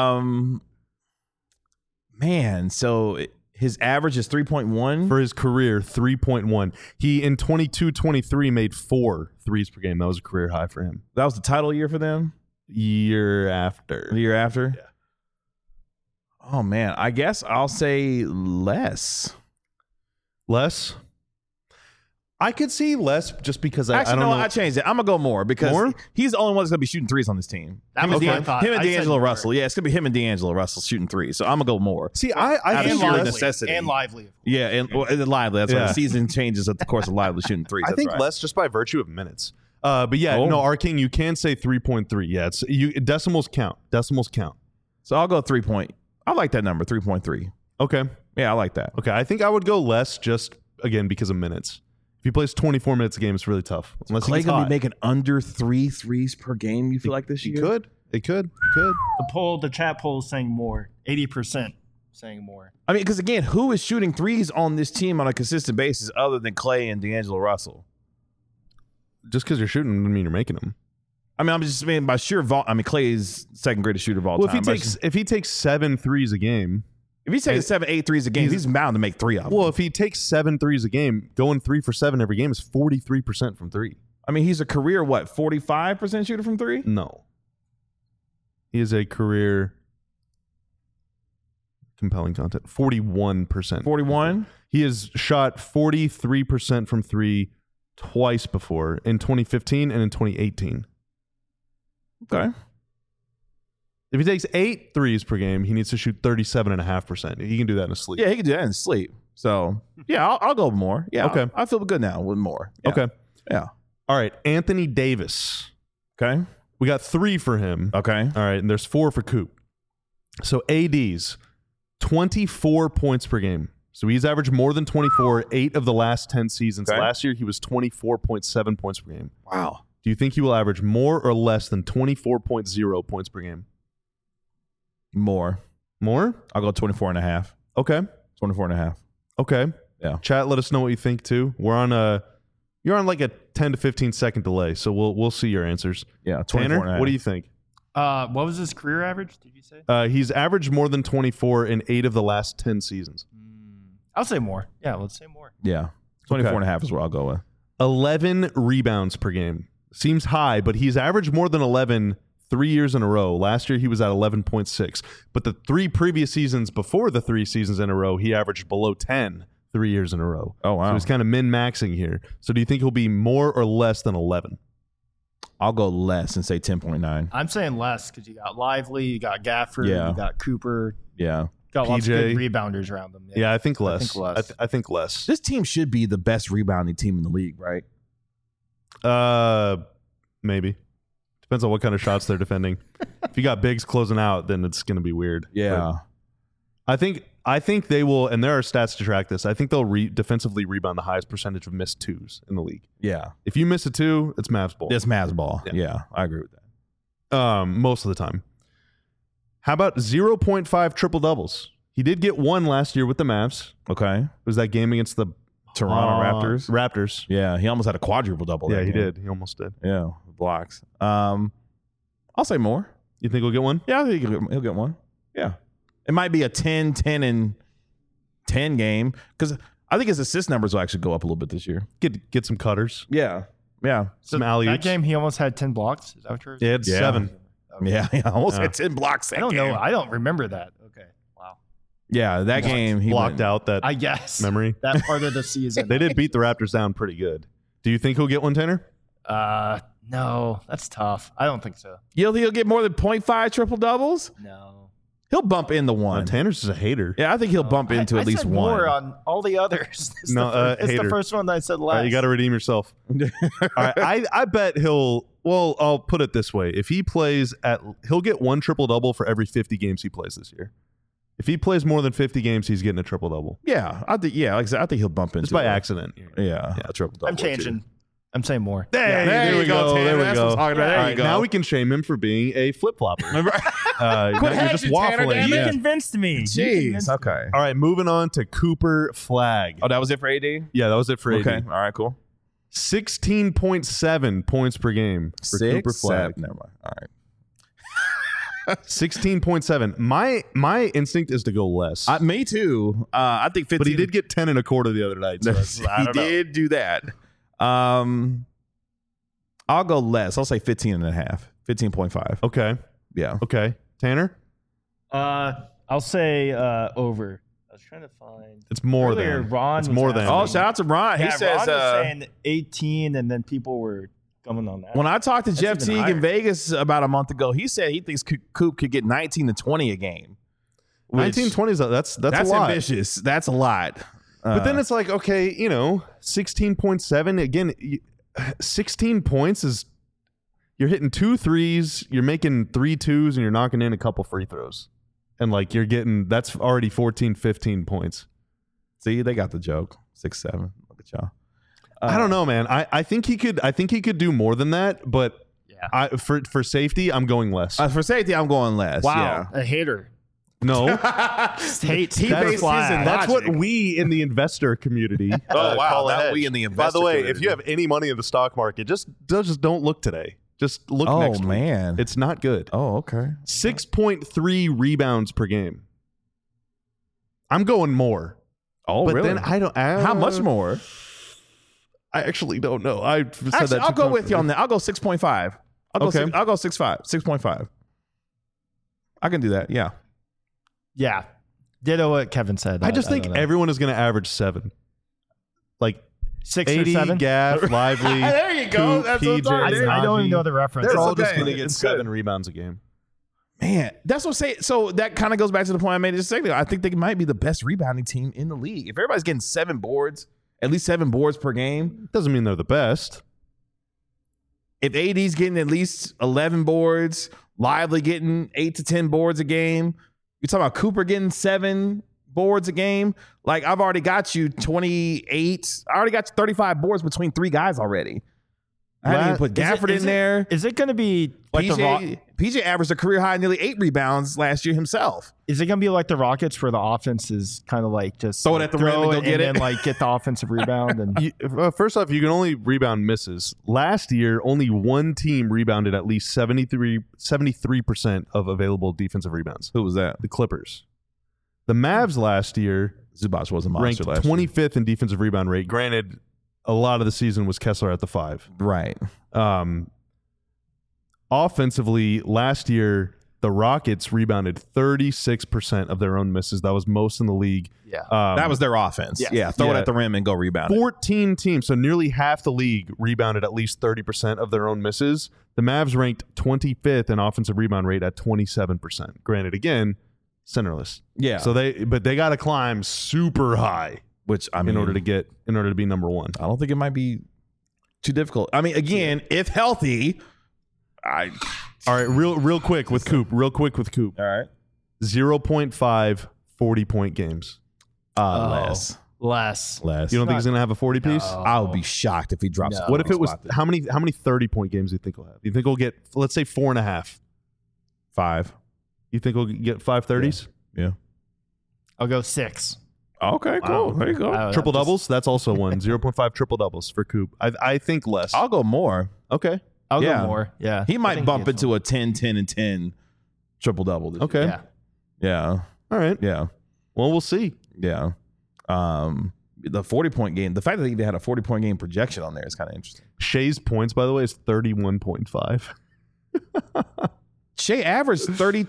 [SPEAKER 1] Man, so his average is 3.1
[SPEAKER 2] for his career, 3.1. He in 22-23 made 4 threes per game. That was a career high for him.
[SPEAKER 1] That was the title year for them?
[SPEAKER 2] Year after.
[SPEAKER 1] The year after?
[SPEAKER 2] Yeah.
[SPEAKER 1] Oh man, I guess I'll say less.
[SPEAKER 2] Less? I could see less just because I don't know.
[SPEAKER 1] I changed it. I'm going to go more because he's the only one that's going to be shooting threes on this team. Him and D'Angelo Russell. Yeah, it's going to be him and D'Angelo Russell shooting threes. So I'm going to go more.
[SPEAKER 2] See, I
[SPEAKER 1] think
[SPEAKER 3] Lively.
[SPEAKER 1] necessity.
[SPEAKER 3] And Lively.
[SPEAKER 1] Yeah, and Lively. That's why the season changes at the course of Lively shooting threes.
[SPEAKER 2] I think less just by virtue of minutes. But yeah, no, our King, you can say 3.3. Yeah, it's decimals count. Decimals count.
[SPEAKER 1] So I'll go 3 point. I like that number, 3.3.
[SPEAKER 2] Okay.
[SPEAKER 1] Yeah, I like that.
[SPEAKER 2] Okay, I think I would go less just, again, because of minutes. If he plays 24 minutes a game, it's really tough. Unless
[SPEAKER 1] Clay
[SPEAKER 2] he's
[SPEAKER 1] going to be making under 3 threes per game, you feel like this year?
[SPEAKER 2] It could.
[SPEAKER 3] The chat poll is saying more. 80% saying more.
[SPEAKER 1] I mean, because again, who is shooting threes on this team on a consistent basis other than Clay and D'Angelo Russell?
[SPEAKER 2] Just because you're shooting doesn't mean you're making them.
[SPEAKER 1] I mean, I'm just saying by sheer volume. I mean, Clay is second greatest shooter of all time.
[SPEAKER 2] If he takes 7 threes a game.
[SPEAKER 1] If he's taking 7, 8 threes a game, he's bound to make 3 of them.
[SPEAKER 2] Well, if he takes 7 threes a game, going 3 for 7 every game is 43% from 3.
[SPEAKER 1] I mean, he's a career, 45% shooter from 3?
[SPEAKER 2] No. He is a career compelling content. 41%.
[SPEAKER 1] 41?
[SPEAKER 2] He has shot 43% from 3 twice before, in 2015 and in 2018.
[SPEAKER 1] Okay.
[SPEAKER 2] If he takes 8 threes per game, he needs to shoot 37.5%. He can do that in his sleep.
[SPEAKER 1] Yeah, he can do that in his sleep. So, yeah, I'll go more. Yeah,
[SPEAKER 2] okay.
[SPEAKER 1] I feel good now with more. Yeah.
[SPEAKER 2] Okay.
[SPEAKER 1] Yeah.
[SPEAKER 2] All right, Anthony Davis.
[SPEAKER 1] Okay.
[SPEAKER 2] We got 3 for him.
[SPEAKER 1] Okay.
[SPEAKER 2] All right, and there's 4 for Coop. So AD's 24 points per game. So he's averaged more than 24 8 of the last 10 seasons.
[SPEAKER 1] Okay.
[SPEAKER 2] Last year, he was 24.7 points per game.
[SPEAKER 1] Wow.
[SPEAKER 2] Do you think he will average more or less than 24.0 points per game?
[SPEAKER 1] More. I'll go 24.5.
[SPEAKER 2] Okay.
[SPEAKER 1] 24.5.
[SPEAKER 2] Okay.
[SPEAKER 1] Yeah.
[SPEAKER 2] Chat, let us know what you think too. You're on like a 10 to 15 second delay, so we'll see your answers.
[SPEAKER 1] Yeah.
[SPEAKER 2] Tanner, what do you think?
[SPEAKER 3] What was his career average? Did you say?
[SPEAKER 2] He's averaged more than 24 in 8 of the last 10 seasons.
[SPEAKER 3] I'll say more. Yeah, let's say more.
[SPEAKER 1] Yeah. 24.5 is where I'll go with.
[SPEAKER 2] 11 rebounds per game. Seems high, but he's averaged more than 11 3 years in a row. Last year, he was at 11.6. But the 3 previous seasons before the 3 seasons in a row, he averaged below 10 3 years in a row.
[SPEAKER 1] Oh, wow.
[SPEAKER 2] So he's kind of min-maxing here. So do you think he'll be more or less than 11?
[SPEAKER 1] I'll go less and say 10.9.
[SPEAKER 3] I'm saying less because you got Lively, you got Gafford,
[SPEAKER 1] Yeah.
[SPEAKER 3] you got Cooper.
[SPEAKER 1] Yeah.
[SPEAKER 3] Got lots of
[SPEAKER 2] PJ.
[SPEAKER 3] good rebounders around them.
[SPEAKER 2] Yeah, I think less. I think less.
[SPEAKER 1] This team should be the best rebounding team in the league, right?
[SPEAKER 2] Maybe. Depends on what kind of shots they're defending. If you got bigs closing out, then it's going to be weird.
[SPEAKER 1] Yeah.
[SPEAKER 2] But I think they will, and there are stats to track this. I think they'll defensively rebound the highest percentage of missed 2s in the league.
[SPEAKER 1] Yeah.
[SPEAKER 2] If you miss a 2, it's Mavs ball.
[SPEAKER 1] It's Mavs ball.
[SPEAKER 2] Yeah.
[SPEAKER 1] Yeah, I agree with that.
[SPEAKER 2] Most of the time. How about 0.5 triple doubles? He did get 1 last year with the Mavs.
[SPEAKER 1] Okay.
[SPEAKER 2] It was that game against the
[SPEAKER 1] Toronto Raptors.
[SPEAKER 2] Raptors.
[SPEAKER 1] Yeah, he almost had a quadruple double.
[SPEAKER 2] Yeah, he did. He almost did.
[SPEAKER 1] Yeah, blocks. I'll say more.
[SPEAKER 2] You think he'll get one?
[SPEAKER 1] Yeah, I think he'll get one. Yeah. It might be a 10, 10, and 10 game because I think his assist numbers will actually go up a little bit this year.
[SPEAKER 2] Get some cutters.
[SPEAKER 1] Yeah. Yeah.
[SPEAKER 2] Some alley-oops.
[SPEAKER 3] That game, he almost had 10 blocks. Is that what you're
[SPEAKER 2] Yeah, it's 7.
[SPEAKER 1] Yeah, he almost had 10 blocks.
[SPEAKER 3] I don't know. I don't remember that. Okay. Wow.
[SPEAKER 1] Yeah, that game he
[SPEAKER 2] blocked
[SPEAKER 1] went,
[SPEAKER 2] out that
[SPEAKER 3] I guess.
[SPEAKER 2] memory.
[SPEAKER 3] That part of the season.
[SPEAKER 2] They did beat the Raptors down pretty good. Do you think he'll get one, Tanner?
[SPEAKER 3] No, that's tough. I don't think so.
[SPEAKER 1] He'll get more than 0.5 triple doubles.
[SPEAKER 3] No.
[SPEAKER 1] He'll bump into one.
[SPEAKER 2] Tanner's just a hater.
[SPEAKER 1] Yeah, I think he'll bump into
[SPEAKER 3] I
[SPEAKER 1] at least
[SPEAKER 3] said
[SPEAKER 1] one.
[SPEAKER 3] more on all the others. It's the
[SPEAKER 2] hater.
[SPEAKER 3] first one that I said
[SPEAKER 2] All
[SPEAKER 3] last.
[SPEAKER 2] right, you got to redeem yourself. All right, I bet he'll. Well, I'll put it this way: if he plays he'll get one triple double for every 50 games he plays this year. If he plays more than 50 games, he's getting a triple double.
[SPEAKER 1] Yeah, I think. Yeah, like I said, I think he'll bump into
[SPEAKER 2] Just by
[SPEAKER 1] it.
[SPEAKER 2] accident.
[SPEAKER 1] Yeah, a triple double.
[SPEAKER 3] I'm changing. I'm saying more.
[SPEAKER 1] There we go.
[SPEAKER 2] There we
[SPEAKER 1] That's
[SPEAKER 2] go.
[SPEAKER 1] what I'm talking about. There
[SPEAKER 2] All
[SPEAKER 1] you
[SPEAKER 2] right,
[SPEAKER 1] go.
[SPEAKER 2] Now we can shame him for being a flip flopper. You're just
[SPEAKER 1] hedging, Tanner,
[SPEAKER 2] waffling.
[SPEAKER 1] damn it.
[SPEAKER 3] You convinced me.
[SPEAKER 1] Jeez. Okay.
[SPEAKER 2] All right, moving on to Cooper Flag.
[SPEAKER 1] Oh, that was it for AD?
[SPEAKER 2] Yeah, that was it for AD.
[SPEAKER 1] Okay. All right, cool.
[SPEAKER 2] 16.7 points per game for Cooper Flag.
[SPEAKER 1] Never mind. All right.
[SPEAKER 2] 16.7. My instinct is to go less.
[SPEAKER 1] Me too. I think 15.
[SPEAKER 2] But he did get 10 and a quarter the other night. So
[SPEAKER 1] he did do that. I'll go less. I'll say 15 and a half. 15.5.
[SPEAKER 2] Okay.
[SPEAKER 1] Yeah.
[SPEAKER 2] Okay. Tanner?
[SPEAKER 3] I'll say over. I was trying to find.
[SPEAKER 2] It's more
[SPEAKER 3] Earlier,
[SPEAKER 2] than.
[SPEAKER 3] Ron
[SPEAKER 2] It's
[SPEAKER 3] was
[SPEAKER 2] more than.
[SPEAKER 1] Oh, shout out to Ron.
[SPEAKER 3] Yeah,
[SPEAKER 1] He says
[SPEAKER 3] Ron was saying 18, and then people were coming on that.
[SPEAKER 1] when I talked to Jeff
[SPEAKER 3] even
[SPEAKER 1] Teague
[SPEAKER 3] higher.
[SPEAKER 1] in Vegas about a month ago, he said he thinks Coop could get 19 to 20 a game.
[SPEAKER 2] 19, 20 is that's a lot.
[SPEAKER 1] ambitious. That's a lot.
[SPEAKER 2] But then it's like, okay, 16.7. Again, 16 points is you're hitting 2 threes, you're making 3 twos, and you're knocking in a couple free throws. And like you're getting that's already 14, 15 points.
[SPEAKER 1] See, they got the joke. 6-7. Look at y'all.
[SPEAKER 2] I don't know, man. I think he could do more than that, but for safety, I'm going less.
[SPEAKER 1] For safety, I'm going less.
[SPEAKER 3] Wow, a hater.
[SPEAKER 2] No.
[SPEAKER 3] Hates
[SPEAKER 1] He
[SPEAKER 3] Cooper
[SPEAKER 1] bases in
[SPEAKER 3] Flag.
[SPEAKER 2] That's
[SPEAKER 1] logic.
[SPEAKER 2] what we in the investor community
[SPEAKER 1] Oh, wow.
[SPEAKER 2] call a
[SPEAKER 1] Not
[SPEAKER 2] hedge.
[SPEAKER 1] we in the
[SPEAKER 2] By
[SPEAKER 1] investor
[SPEAKER 2] the way,
[SPEAKER 1] community.
[SPEAKER 2] if you have any money in the stock market, just don't look today. Just look
[SPEAKER 1] Oh,
[SPEAKER 2] next week.
[SPEAKER 1] man.
[SPEAKER 2] It's not good.
[SPEAKER 1] Oh, okay.
[SPEAKER 2] 6.3 rebounds per game. I'm going more.
[SPEAKER 1] Oh,
[SPEAKER 2] but
[SPEAKER 1] really?
[SPEAKER 2] then I don't.
[SPEAKER 1] How much more?
[SPEAKER 2] I actually don't know. I said
[SPEAKER 1] Actually,
[SPEAKER 2] that
[SPEAKER 1] I'll
[SPEAKER 2] too
[SPEAKER 1] go with you on
[SPEAKER 2] confidently.
[SPEAKER 1] that. I'll go 6.5.
[SPEAKER 2] Okay.
[SPEAKER 1] I'll go 6.5. 6.5. I can do that. Yeah.
[SPEAKER 3] Yeah. Ditto what Kevin said.
[SPEAKER 2] I just think
[SPEAKER 3] don't know.
[SPEAKER 2] everyone is going to average 7. Like
[SPEAKER 3] 6 or
[SPEAKER 2] 80,
[SPEAKER 3] 7.
[SPEAKER 2] Gaff, Lively.
[SPEAKER 1] There you go.
[SPEAKER 2] Coop,
[SPEAKER 1] That's what I'm
[SPEAKER 2] PJ,
[SPEAKER 1] talking about.
[SPEAKER 3] I don't even
[SPEAKER 2] Naji.
[SPEAKER 3] know the reference.
[SPEAKER 2] They're
[SPEAKER 1] It's
[SPEAKER 2] all
[SPEAKER 1] okay.
[SPEAKER 2] just going to get
[SPEAKER 1] It's
[SPEAKER 2] 7
[SPEAKER 1] good.
[SPEAKER 2] rebounds a game.
[SPEAKER 1] Man, that's what I'm saying. So that kind of goes back to the point I made just a second ago. I think they might be the best rebounding team in the league. If everybody's getting 7 boards, at least 7 boards per game.
[SPEAKER 2] Doesn't mean they're the best.
[SPEAKER 1] If AD's getting at least 11 boards, Lively getting 8 to 10 boards a game, you're talking about Cooper getting 7 boards a game. Like, I've already got you 28. I already got you 35 boards between 3 guys already. I hadn't even put Gafford in there.
[SPEAKER 3] Is it going to be like the
[SPEAKER 1] PJ averaged a career high nearly 8 rebounds last year himself.
[SPEAKER 3] Is it going to be like the Rockets where the offense is kind of like just
[SPEAKER 1] Throw it at the rim and go get it?
[SPEAKER 3] then like get the offensive rebound and
[SPEAKER 2] First off, you can only rebound misses. Last year, only one team rebounded at least 73% of available defensive rebounds.
[SPEAKER 1] Who was that?
[SPEAKER 2] The Clippers. The Mavs last year
[SPEAKER 1] Zubac was a
[SPEAKER 2] ranked
[SPEAKER 1] monster last year.
[SPEAKER 2] 25th in defensive rebound rate. Granted, a lot of the season was Kessler at the 5.
[SPEAKER 1] Right.
[SPEAKER 2] Offensively, last year, the Rockets rebounded 36% of their own misses. That was most in the league.
[SPEAKER 3] yeah.
[SPEAKER 1] That was their offense.
[SPEAKER 3] Yes.
[SPEAKER 1] Yeah. Throw it
[SPEAKER 2] Yeah.
[SPEAKER 1] at the rim and go rebound.
[SPEAKER 2] 14 teams, so nearly half the league rebounded at least 30% of their own misses. The Mavs ranked 25th in offensive rebound rate at 27%. Granted, again, centerless.
[SPEAKER 1] Yeah.
[SPEAKER 2] So they got to climb super high
[SPEAKER 1] Which, I mean,
[SPEAKER 2] in order to be number 1.
[SPEAKER 1] I don't think it might be too difficult. I mean, again, if healthy,
[SPEAKER 2] All right, real quick with Coop.
[SPEAKER 1] All right.
[SPEAKER 2] 0.5 40-point games.
[SPEAKER 1] Less.
[SPEAKER 3] less.
[SPEAKER 1] Less.
[SPEAKER 2] You don't think he's going to have a 40 piece?
[SPEAKER 1] I would be shocked if he drops.
[SPEAKER 3] No.
[SPEAKER 1] a
[SPEAKER 2] What if it was
[SPEAKER 1] spot.
[SPEAKER 2] how many 30-point games do you think he'll have? You think he'll get, let's say, 4.5?
[SPEAKER 1] 5?
[SPEAKER 2] You think he'll get 5 30s?
[SPEAKER 1] Yeah.
[SPEAKER 3] I'll go 6.
[SPEAKER 1] Okay, cool. There you go.
[SPEAKER 2] Triple doubles. That's also one. 0.5 triple doubles for Coop. I think less.
[SPEAKER 1] I'll go more.
[SPEAKER 2] Okay.
[SPEAKER 3] I'll
[SPEAKER 1] Yeah.
[SPEAKER 3] go more. Yeah.
[SPEAKER 1] He
[SPEAKER 3] I
[SPEAKER 1] might
[SPEAKER 3] think
[SPEAKER 1] bump
[SPEAKER 3] gets
[SPEAKER 1] into a 10, 10, and 10 triple double.
[SPEAKER 2] Okay.
[SPEAKER 3] Yeah.
[SPEAKER 1] Yeah.
[SPEAKER 2] All right.
[SPEAKER 1] Yeah.
[SPEAKER 2] Well, we'll see.
[SPEAKER 1] Yeah. The 40-point game, the fact that they even had a 40-point game projection on there is kind of interesting.
[SPEAKER 2] Shea's points, by the way, is 31.5.
[SPEAKER 1] Shea averaged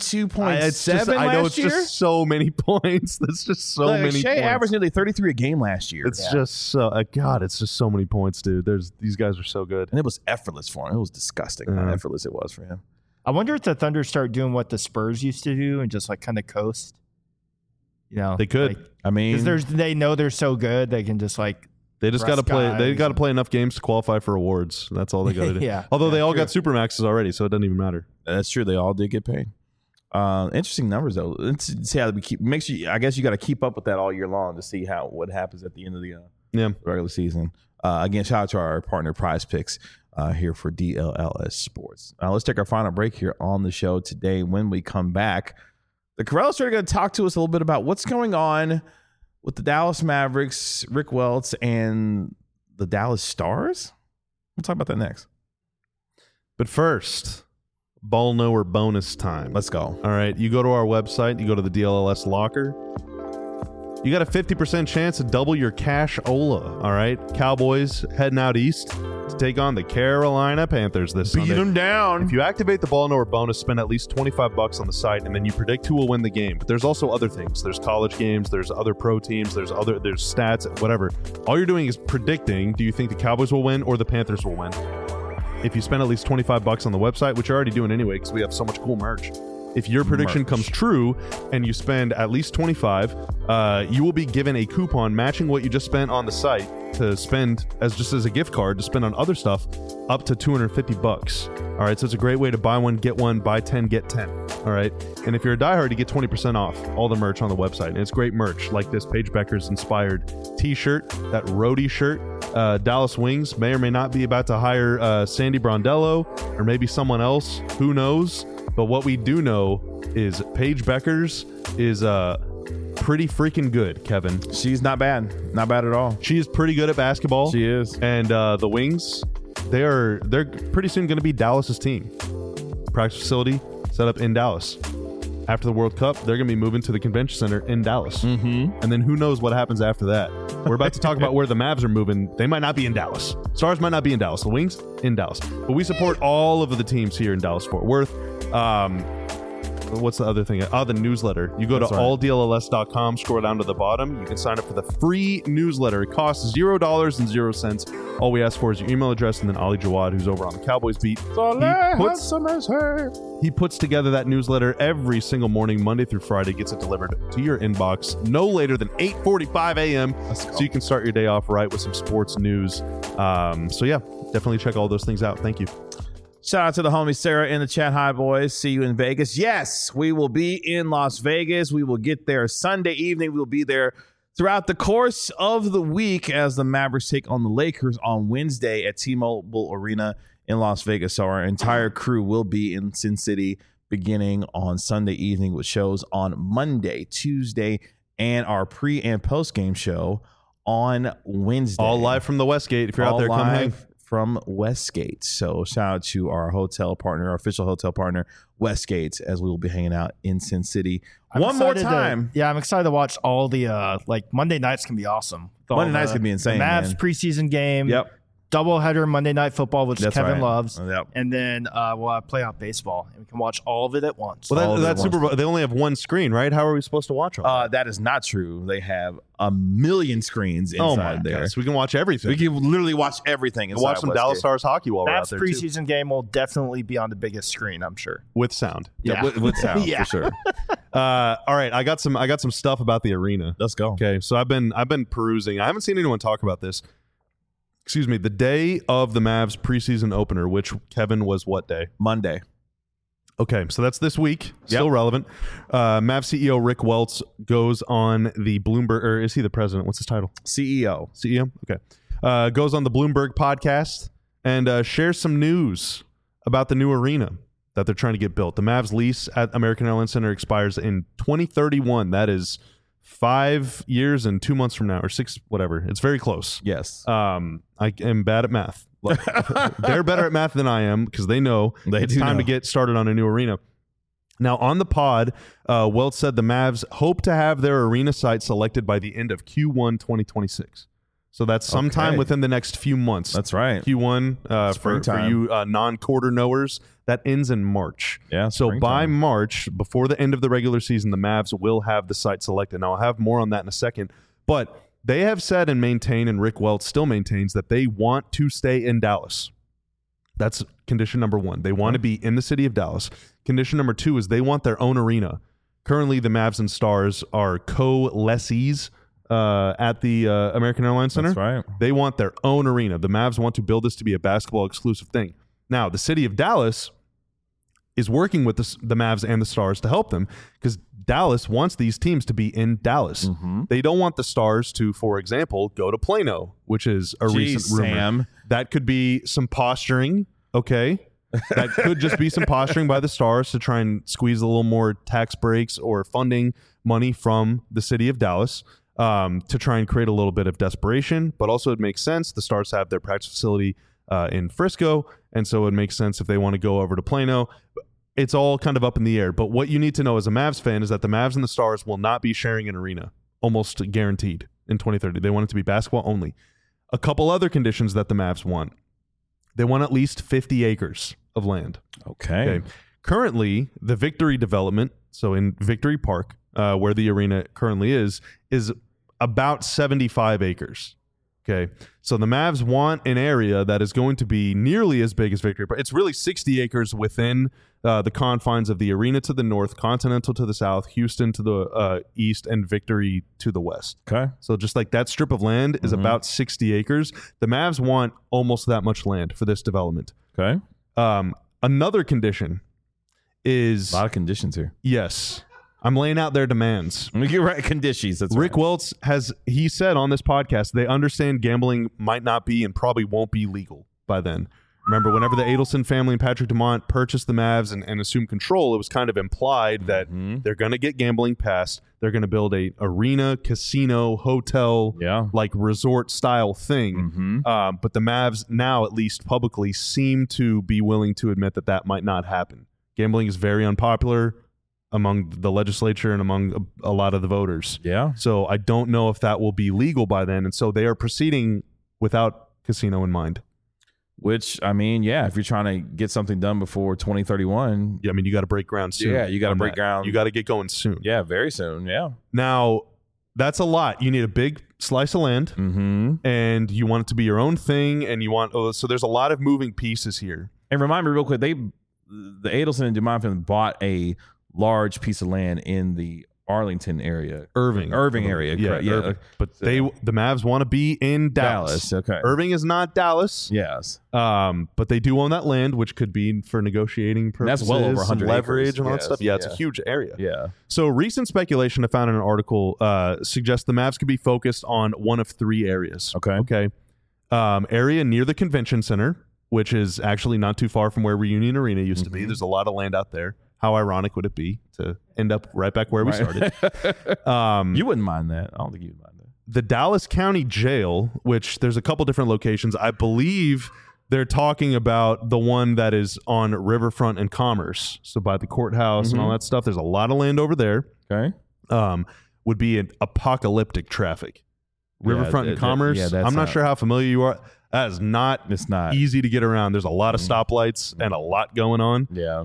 [SPEAKER 1] 32.7
[SPEAKER 2] I know
[SPEAKER 1] last
[SPEAKER 2] it's
[SPEAKER 1] year.
[SPEAKER 2] just so many points. That's just so
[SPEAKER 1] Like,
[SPEAKER 2] many
[SPEAKER 1] Shea
[SPEAKER 2] points.
[SPEAKER 1] averaged nearly 33 a game last year.
[SPEAKER 2] It's just so God. It's just so many points, dude. These guys are so good.
[SPEAKER 1] And it was effortless for him. It was disgusting how
[SPEAKER 2] Yeah.
[SPEAKER 1] effortless it was for him.
[SPEAKER 3] I wonder if the Thunder start doing what the Spurs used to do and just like kind of coast. You know,
[SPEAKER 2] They could.
[SPEAKER 1] I mean,
[SPEAKER 3] because they know they're so good they can just like
[SPEAKER 2] They just got to
[SPEAKER 3] rest
[SPEAKER 2] play. They
[SPEAKER 3] guys
[SPEAKER 2] got to
[SPEAKER 3] and-
[SPEAKER 2] play enough games to qualify for awards. That's all they got to do.
[SPEAKER 3] Yeah.
[SPEAKER 2] Although
[SPEAKER 3] Yeah,
[SPEAKER 2] they all
[SPEAKER 3] true.
[SPEAKER 2] got supermaxes already, so it doesn't even matter.
[SPEAKER 1] that's true. They all did get paid. Interesting numbers though. Let's see how we keep. Make sure. I guess you got to keep up with that all year long to see what happens at the end of the regular season. Again, shout out to our partner Prize Picks here for DLLS Sports. Let's take our final break here on the show today. When we come back, the Corrales are going to talk to us a little bit about what's going on with the Dallas Mavericks, Rick Welts, and the Dallas Stars. We'll talk about that next.
[SPEAKER 2] But first, ball knower bonus time.
[SPEAKER 1] Let's go.
[SPEAKER 2] All right, you go to our website. You go to the DLLS locker. You got a 50% chance to double your cash Ola. All right, Cowboys heading out east to take on the Carolina Panthers this Sunday.
[SPEAKER 1] Beat them down.
[SPEAKER 2] If you activate the ball knower bonus, spend at least $25 on the site, and then you predict who will win the game. But there's also other things. There's college games. There's other pro teams. There's stats. Whatever. All you're doing is predicting. Do you think the Cowboys will win or the Panthers will win? If you spend at least $25 on the website, which you're already doing anyway, because we have so much cool merch. If your prediction comes true and you spend at least $25, you will be given a coupon matching what you just spent on the site to spend as a gift card to spend on other stuff up to $250. All right, so it's a great way to buy one, get one, buy 10, get 10. All right, and if you're a diehard, you get 20% off all the merch on the website. And it's great merch like this Paige Becker's inspired t-shirt, that roadie shirt. Dallas Wings may or may not be about to hire Sandy Brondello or maybe someone else. Who knows? But what we do know is Paige Becker's is pretty freaking good, Kevin.
[SPEAKER 1] She's not bad. Not bad at all.
[SPEAKER 2] She is pretty good at basketball.
[SPEAKER 1] She is.
[SPEAKER 2] And the Wings, they're pretty soon going to be Dallas's team. Practice facility set up in Dallas. After the World Cup, they're going to be moving to the convention center in Dallas. Mm-hmm. And then who knows what happens after that. We're about to talk about where the Mavs are moving. They might not be in Dallas. Stars might not be in Dallas. The Wings, in Dallas. But we support all of the teams here in Dallas-Fort Worth. What's the other thing? The newsletter. You go to alldlls.com, scroll down to the bottom. You can sign up for the free newsletter. It costs $0.00. All we ask for is your email address, and then Ali Jawad, who's over on the Cowboys beat, he puts together that newsletter every single morning, Monday through Friday, gets it delivered to your inbox no later than 8:45 a.m. So you can start your day off right with some sports news. So yeah, definitely check all those things out. Thank you.
[SPEAKER 1] Shout out to the homie Sarah in the chat. Hi, boys. See you in Vegas. Yes, we will be in Las Vegas. We will get there Sunday evening. We will be there throughout the course of the week as the Mavericks take on the Lakers on Wednesday at T-Mobile Arena in Las Vegas. So our entire crew will be in Sin City beginning on Sunday evening with shows on Monday, Tuesday, and our pre- and post-game show on Wednesday.
[SPEAKER 2] All live from the Westgate. If you're out there, come hang.
[SPEAKER 1] From Westgate. So shout out to our hotel partner, our official hotel partner, Westgate, as we will be hanging out in Sin City one more time.
[SPEAKER 3] I'm excited to watch all the Monday nights can be awesome.
[SPEAKER 1] Monday nights can be insane.
[SPEAKER 3] The Mavs
[SPEAKER 1] man.
[SPEAKER 3] preseason game.
[SPEAKER 1] Yep.
[SPEAKER 3] Doubleheader Monday Night Football, which
[SPEAKER 1] That's
[SPEAKER 3] Kevin
[SPEAKER 1] right.
[SPEAKER 3] loves.
[SPEAKER 1] Yep.
[SPEAKER 3] And then we'll have playoff baseball, and we can watch all of it at once.
[SPEAKER 2] Well, that's Super Bowl. They only have one screen, right? How are we supposed to watch them?
[SPEAKER 1] That is not true. They have a million screens inside there.
[SPEAKER 2] God. So we can watch everything.
[SPEAKER 1] We can literally watch everything.
[SPEAKER 2] We'll watch some
[SPEAKER 1] Westgate.
[SPEAKER 2] Dallas Stars hockey while we're out
[SPEAKER 3] Mavs
[SPEAKER 2] there
[SPEAKER 3] preseason game will definitely be on the biggest screen, I'm sure.
[SPEAKER 2] with sound.
[SPEAKER 1] Yeah, with sound
[SPEAKER 3] Yeah.
[SPEAKER 1] for sure.
[SPEAKER 2] All right, I got some stuff about the arena.
[SPEAKER 1] Let's go.
[SPEAKER 2] Okay, so I've been perusing. I haven't seen anyone talk about this. Excuse me. The day of the Mavs preseason opener, which Kevin was what day?
[SPEAKER 1] Monday.
[SPEAKER 2] Okay, so that's this week. Still relevant. Mavs CEO Rick Welts goes on the Bloomberg, or is he the president? What's his title?
[SPEAKER 1] CEO.
[SPEAKER 2] CEO? Okay. Goes on the Bloomberg podcast and shares some news about the new arena that they're trying to get built. The Mavs lease at American Airlines Center expires in 2031. That is 5 years and 2 months from now, or 6, whatever. It's very close.
[SPEAKER 1] Yes.
[SPEAKER 2] I am bad at math. They're better at math than I am because they know it's time to get started on a new arena. Now, on the pod, Welts said the Mavs hope to have their arena site selected by the end of Q1 2026. So that's sometime within the next few months.
[SPEAKER 1] That's right.
[SPEAKER 2] Q1 for you non-quarter knowers, that ends in March.
[SPEAKER 1] Yeah.
[SPEAKER 2] So by March, before the end of the regular season, the Mavs will have the site selected. Now, I'll have more on that in a second. But they have said and maintain, and Rick Welts still maintains, that they want to stay in Dallas. That's condition number 1. They want to be in the city of Dallas. Condition number 2 is they want their own arena. Currently, the Mavs and Stars are co-lessees at the American Airlines Center.
[SPEAKER 1] That's right.
[SPEAKER 2] They want their own arena. The Mavs want to build this to be a basketball exclusive thing. Now, the city of Dallas is working with the Mavs and the Stars to help them because Dallas wants these teams to be in Dallas.
[SPEAKER 1] Mm-hmm.
[SPEAKER 2] They don't want the Stars to, for example, go to Plano, which is a recent rumor.
[SPEAKER 1] Sam.
[SPEAKER 2] That could be some posturing, okay? That could just be some posturing by the Stars to try and squeeze a little more tax breaks or funding money from the city of Dallas to try and create a little bit of desperation. But also it makes sense. The Stars have their practice facility in Frisco, and so it makes sense if they want to go over to Plano. It's all kind of up in the air. But what you need to know as a Mavs fan is that the Mavs and the Stars will not be sharing an arena, almost guaranteed, in 2030. They want it to be basketball only. A couple other conditions that the Mavs want. They want at least 50 acres of land.
[SPEAKER 1] Okay.
[SPEAKER 2] Currently, the Victory development, so in Victory Park, where the arena currently is about 75 acres. Okay. So the Mavs want an area that is going to be nearly as big as Victory Park. It's really 60 acres within the confines of the arena to the north, Continental to the south, Houston to the east, and Victory to the west.
[SPEAKER 1] Okay.
[SPEAKER 2] So just like that strip of land is about 60 acres. The Mavs want almost that much land for this development.
[SPEAKER 1] Okay.
[SPEAKER 2] Another condition is...
[SPEAKER 1] A lot of conditions here.
[SPEAKER 2] Yes. I'm laying out their demands.
[SPEAKER 1] You're right. Conditions. That's
[SPEAKER 2] Rick
[SPEAKER 1] right.
[SPEAKER 2] Welts he said on this podcast, they understand gambling might not be and probably won't be legal by then. Remember, whenever the Adelson family and Patrick Dumont purchased the Mavs and assumed control, it was kind of implied that they're going to get gambling passed. They're going to build a arena, casino, hotel, like resort style thing. But the Mavs now, at least publicly, seem to be willing to admit that that might not happen. Gambling is very unpopular among the legislature and among a lot of the voters.
[SPEAKER 1] Yeah.
[SPEAKER 2] So I don't know if that will be legal by then. And so they are proceeding without casino in mind.
[SPEAKER 1] Which, I mean, yeah, if you're trying to get something done before 2031.
[SPEAKER 2] Yeah, I mean, you got to break ground soon.
[SPEAKER 1] Yeah, you got to break ground.
[SPEAKER 2] You got to get going soon.
[SPEAKER 1] Yeah, very soon. Yeah.
[SPEAKER 2] Now, that's a lot. You need a big slice of land, and you want it to be your own thing, and you want... so there's a lot of moving pieces here.
[SPEAKER 1] And remind me real quick, the Adelson and Dumont family bought a large piece of land in the Arlington area.
[SPEAKER 2] Irving
[SPEAKER 1] area.
[SPEAKER 2] Yeah,
[SPEAKER 1] correct.
[SPEAKER 2] Irving. But the Mavs want to be in Dallas.
[SPEAKER 1] Okay.
[SPEAKER 2] Irving is not Dallas.
[SPEAKER 1] Yes.
[SPEAKER 2] But they do own that land, which could be for negotiating purposes.
[SPEAKER 1] That's well over 100
[SPEAKER 2] leverage
[SPEAKER 1] acres.
[SPEAKER 2] and all that stuff. Yeah, it's a huge area.
[SPEAKER 1] Yeah.
[SPEAKER 2] So recent speculation I found in an article suggests the Mavs could be focused on one of 3 areas. Okay. Area near the convention center, which is actually not too far from where Reunion Arena used to be. There's a lot of land out there. How ironic would it be to end up right back where we started?
[SPEAKER 1] You wouldn't mind that. I don't think you'd mind that.
[SPEAKER 2] The Dallas County Jail, which there's a couple different locations. I believe they're talking about the one that is on Riverfront and Commerce. So by the courthouse and all that stuff. There's a lot of land over there.
[SPEAKER 1] Okay.
[SPEAKER 2] Would be an apocalyptic traffic. Riverfront and Commerce. I'm not sure how familiar you are. That is not easy to get around. There's a lot of stoplights and a lot going on.
[SPEAKER 1] Yeah.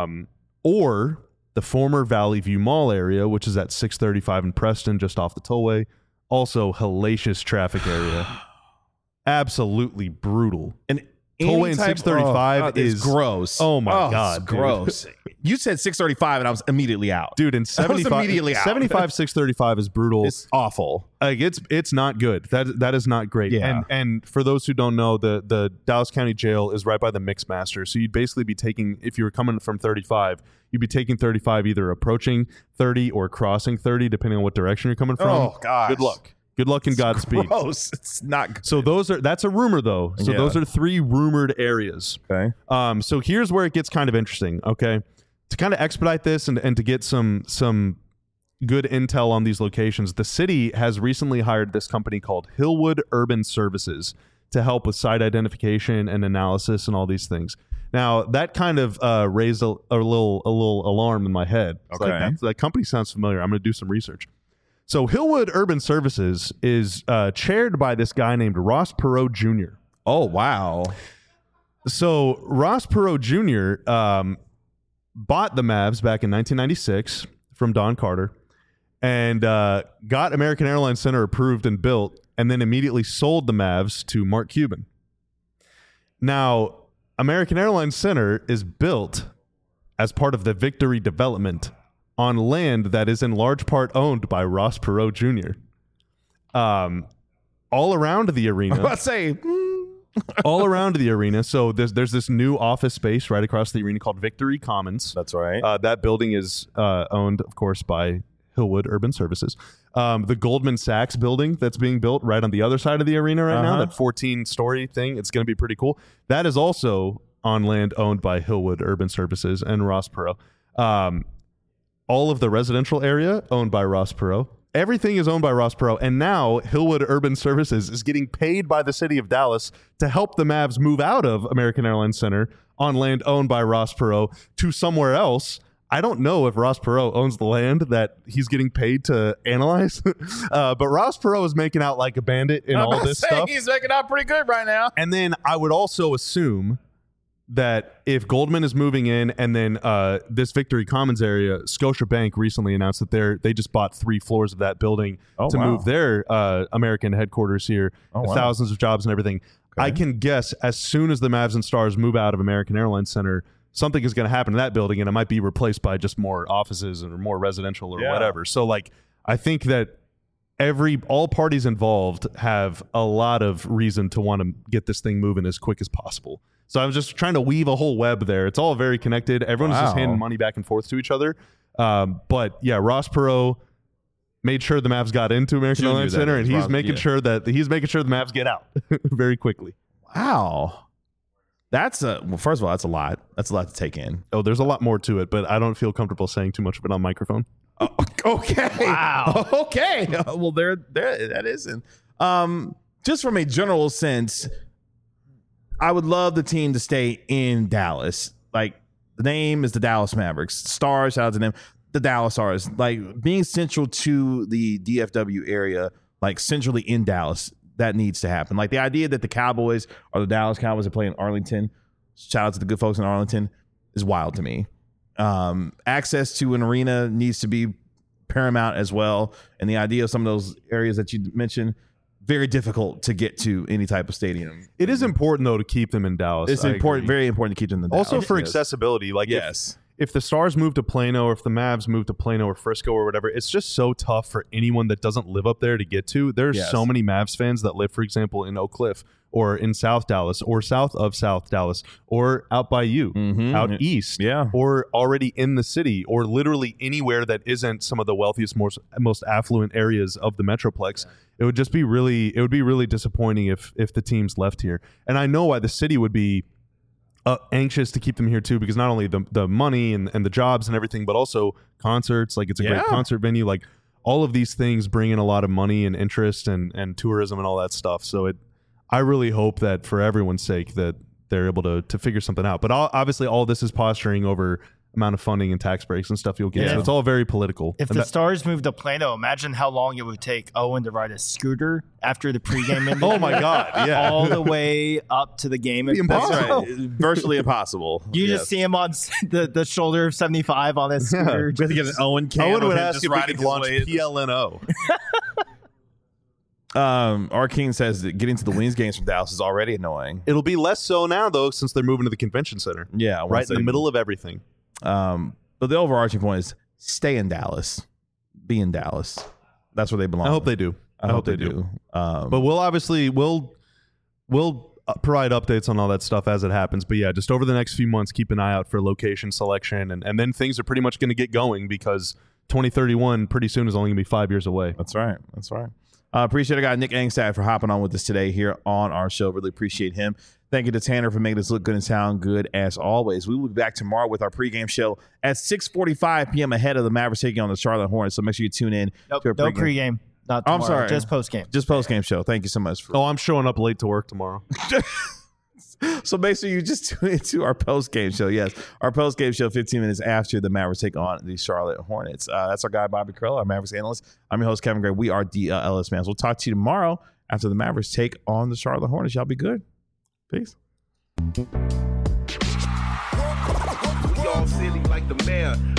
[SPEAKER 2] Or the former Valley View Mall area, which is at 635 in Preston, just off the tollway. Also hellacious traffic area. Absolutely brutal.
[SPEAKER 1] And
[SPEAKER 2] tollway in 635 is
[SPEAKER 1] gross.
[SPEAKER 2] Oh my God.
[SPEAKER 1] Gross. You said 635 and I was immediately out.
[SPEAKER 2] Dude, in 75,
[SPEAKER 1] immediately out.
[SPEAKER 2] 75 635 is brutal.
[SPEAKER 1] It's awful.
[SPEAKER 2] Like it's not good. That is not great.
[SPEAKER 1] Yeah.
[SPEAKER 2] And for those who don't know, the Dallas County Jail is right by the Mixmaster. So you'd basically be taking, if you were coming from 35, you'd be taking 35 either approaching 30 or crossing 30, depending on what direction you're coming from.
[SPEAKER 1] Oh gosh.
[SPEAKER 2] Good luck. Good luck and Godspeed.
[SPEAKER 1] Gross. It's not good.
[SPEAKER 2] So that's a rumor though. So those are 3 rumored areas.
[SPEAKER 1] Okay.
[SPEAKER 2] So here's where it gets kind of interesting. Okay. To kind of expedite this and to get some good intel on these locations, the city has recently hired this company called Hillwood Urban Services to help with site identification and analysis and all these things. Now, that kind of raised a little alarm in my head. It's
[SPEAKER 1] Okay.
[SPEAKER 2] like, that company sounds familiar. I'm going to do some research. So Hillwood Urban Services is chaired by this guy named Ross Perot Jr.
[SPEAKER 1] Oh, wow.
[SPEAKER 2] So Ross Perot Jr. Bought the Mavs back in 1996 from Don Carter and got American Airlines Center approved and built, and then immediately sold the Mavs to Mark Cuban. Now, American Airlines Center is built as part of the Victory development on land that is in large part owned by Ross Perot Jr. All around the arena.
[SPEAKER 1] Let's say,
[SPEAKER 2] all around the arena. So there's this new office space right across the arena called Victory Commons.
[SPEAKER 1] that's right.
[SPEAKER 2] That building is owned, of course, by Hillwood Urban Services. The Goldman Sachs building that's being built right on the other side of the arena right now, that 14-story thing, it's going to be pretty cool. That is also on land owned by Hillwood Urban Services and Ross Perot. All of the residential area owned by Ross Perot. Everything is owned by Ross Perot. And now Hillwood Urban Services is getting paid by the city of Dallas to help the Mavs move out of American Airlines Center on land owned by Ross Perot to somewhere else. I don't know if Ross Perot owns the land that he's getting paid to analyze, but Ross Perot is making out like a bandit in all this stuff.
[SPEAKER 1] He's making out pretty good right now.
[SPEAKER 2] And then I would also assume that if Goldman is moving in, and then this Victory Commons area, Scotiabank recently announced that they just bought 3 floors of that building to move their American headquarters here, thousands of jobs and everything. Okay. I can guess as soon as the Mavs and Stars move out of American Airlines Center, something is going to happen to that building, and it might be replaced by just more offices or more residential or whatever. So, like, I think that all parties involved have a lot of reason to want to get this thing moving as quick as possible. So I was just trying to weave a whole web there. It's all very connected. Everyone's just handing money back and forth to each other. But yeah, Ross Perot made sure the Mavs got into American Airlines Center, and he's making sure the Mavs get out very quickly.
[SPEAKER 1] Wow. First of all, that's a lot. That's a lot to take in.
[SPEAKER 2] Oh, there's a lot more to it, but I don't feel comfortable saying too much of it on microphone.
[SPEAKER 1] Oh, okay.
[SPEAKER 3] Wow.
[SPEAKER 1] Okay. Well, there that isn't. Just from a general sense, I would love the team to stay in Dallas. Like, the name is the Dallas Mavericks. Stars, shout out to them. The Dallas Stars. Like, being central to the DFW area, like centrally in Dallas, that needs to happen. Like, the idea that the Cowboys or the Dallas Cowboys are playing Arlington, shout out to the good folks in Arlington, is wild to me. Access to an arena needs to be paramount as well. And the idea of some of those areas that you mentioned, very difficult to get to any type of stadium.
[SPEAKER 2] It is important, though, to keep them in Dallas.
[SPEAKER 1] It's important, very important to keep them in Dallas.
[SPEAKER 2] Also for accessibility. Like,
[SPEAKER 1] yes.
[SPEAKER 2] If the Stars move to Plano, or if the Mavs move to Plano or Frisco or whatever, it's just so tough for anyone that doesn't live up there to get to. There's so many Mavs fans that live, for example, in Oak Cliff or in South Dallas or south of South Dallas or out by you, out east, or already in the city, or literally anywhere that isn't some of the wealthiest, most affluent areas of the Metroplex. It would just be really disappointing if the teams left here. And I know why the city would be anxious to keep them here too, because not only the money and the jobs and everything, but also concerts. Like, it's a great concert venue. Like, all of these things bring in a lot of money and interest and tourism and all that stuff. So I really hope that for everyone's sake that they're able to figure something out. But obviously all this is posturing over amount of funding and tax breaks and stuff you'll get. So it's all very political.
[SPEAKER 3] If the Stars moved to Plano, imagine how long it would take Owen to ride a scooter after the pregame.
[SPEAKER 2] Oh my God! Yeah,
[SPEAKER 3] all the way up to the game.
[SPEAKER 1] Impossible. Right. Virtually impossible.
[SPEAKER 3] You just see him on the shoulder of 75 on his scooter.
[SPEAKER 1] We have to get an Owen cam.
[SPEAKER 2] Owen would ask if we could launch PLNO.
[SPEAKER 1] R. King says that getting to the Wings games from Dallas is already annoying.
[SPEAKER 2] It'll be less so now, though, since they're moving to the convention center.
[SPEAKER 1] Yeah,
[SPEAKER 2] right in the middle of everything.
[SPEAKER 1] But the overarching point is stay in Dallas. Be in Dallas. That's where they belong.
[SPEAKER 2] I hope they do.
[SPEAKER 1] I hope they do.
[SPEAKER 2] But we'll provide updates on all that stuff as it happens. But yeah, just over the next few months, keep an eye out for location selection. And then things are pretty much going to get going, because 2031 pretty soon is only going to be 5 years away.
[SPEAKER 1] That's right. That's right. Appreciate our guy Nick Angstad for hopping on with us today here on our show. Really appreciate him. Thank you to Tanner for making us look good and sound good as always. We will be back tomorrow with our pregame show at 6:45 p.m. ahead of the Mavericks taking on the Charlotte Hornets. So make sure you tune in.
[SPEAKER 3] Nope,
[SPEAKER 1] to our
[SPEAKER 3] no pregame. Not tomorrow,
[SPEAKER 1] I'm sorry.
[SPEAKER 3] just postgame.
[SPEAKER 1] Just postgame show. Thank you so much.
[SPEAKER 2] Oh, I'm showing up late to work tomorrow.
[SPEAKER 1] So make sure you just tune into our post-game show. Yes, our post-game show 15 minutes after the Mavericks take on the Charlotte Hornets. That's our guy, Bobby Curl, our Mavericks analyst. I'm your host, Kevin Gray. We are DLS Fans. We'll talk to you tomorrow after the Mavericks take on the Charlotte Hornets. Y'all be good. Peace.
[SPEAKER 10] We all silly like the mayor.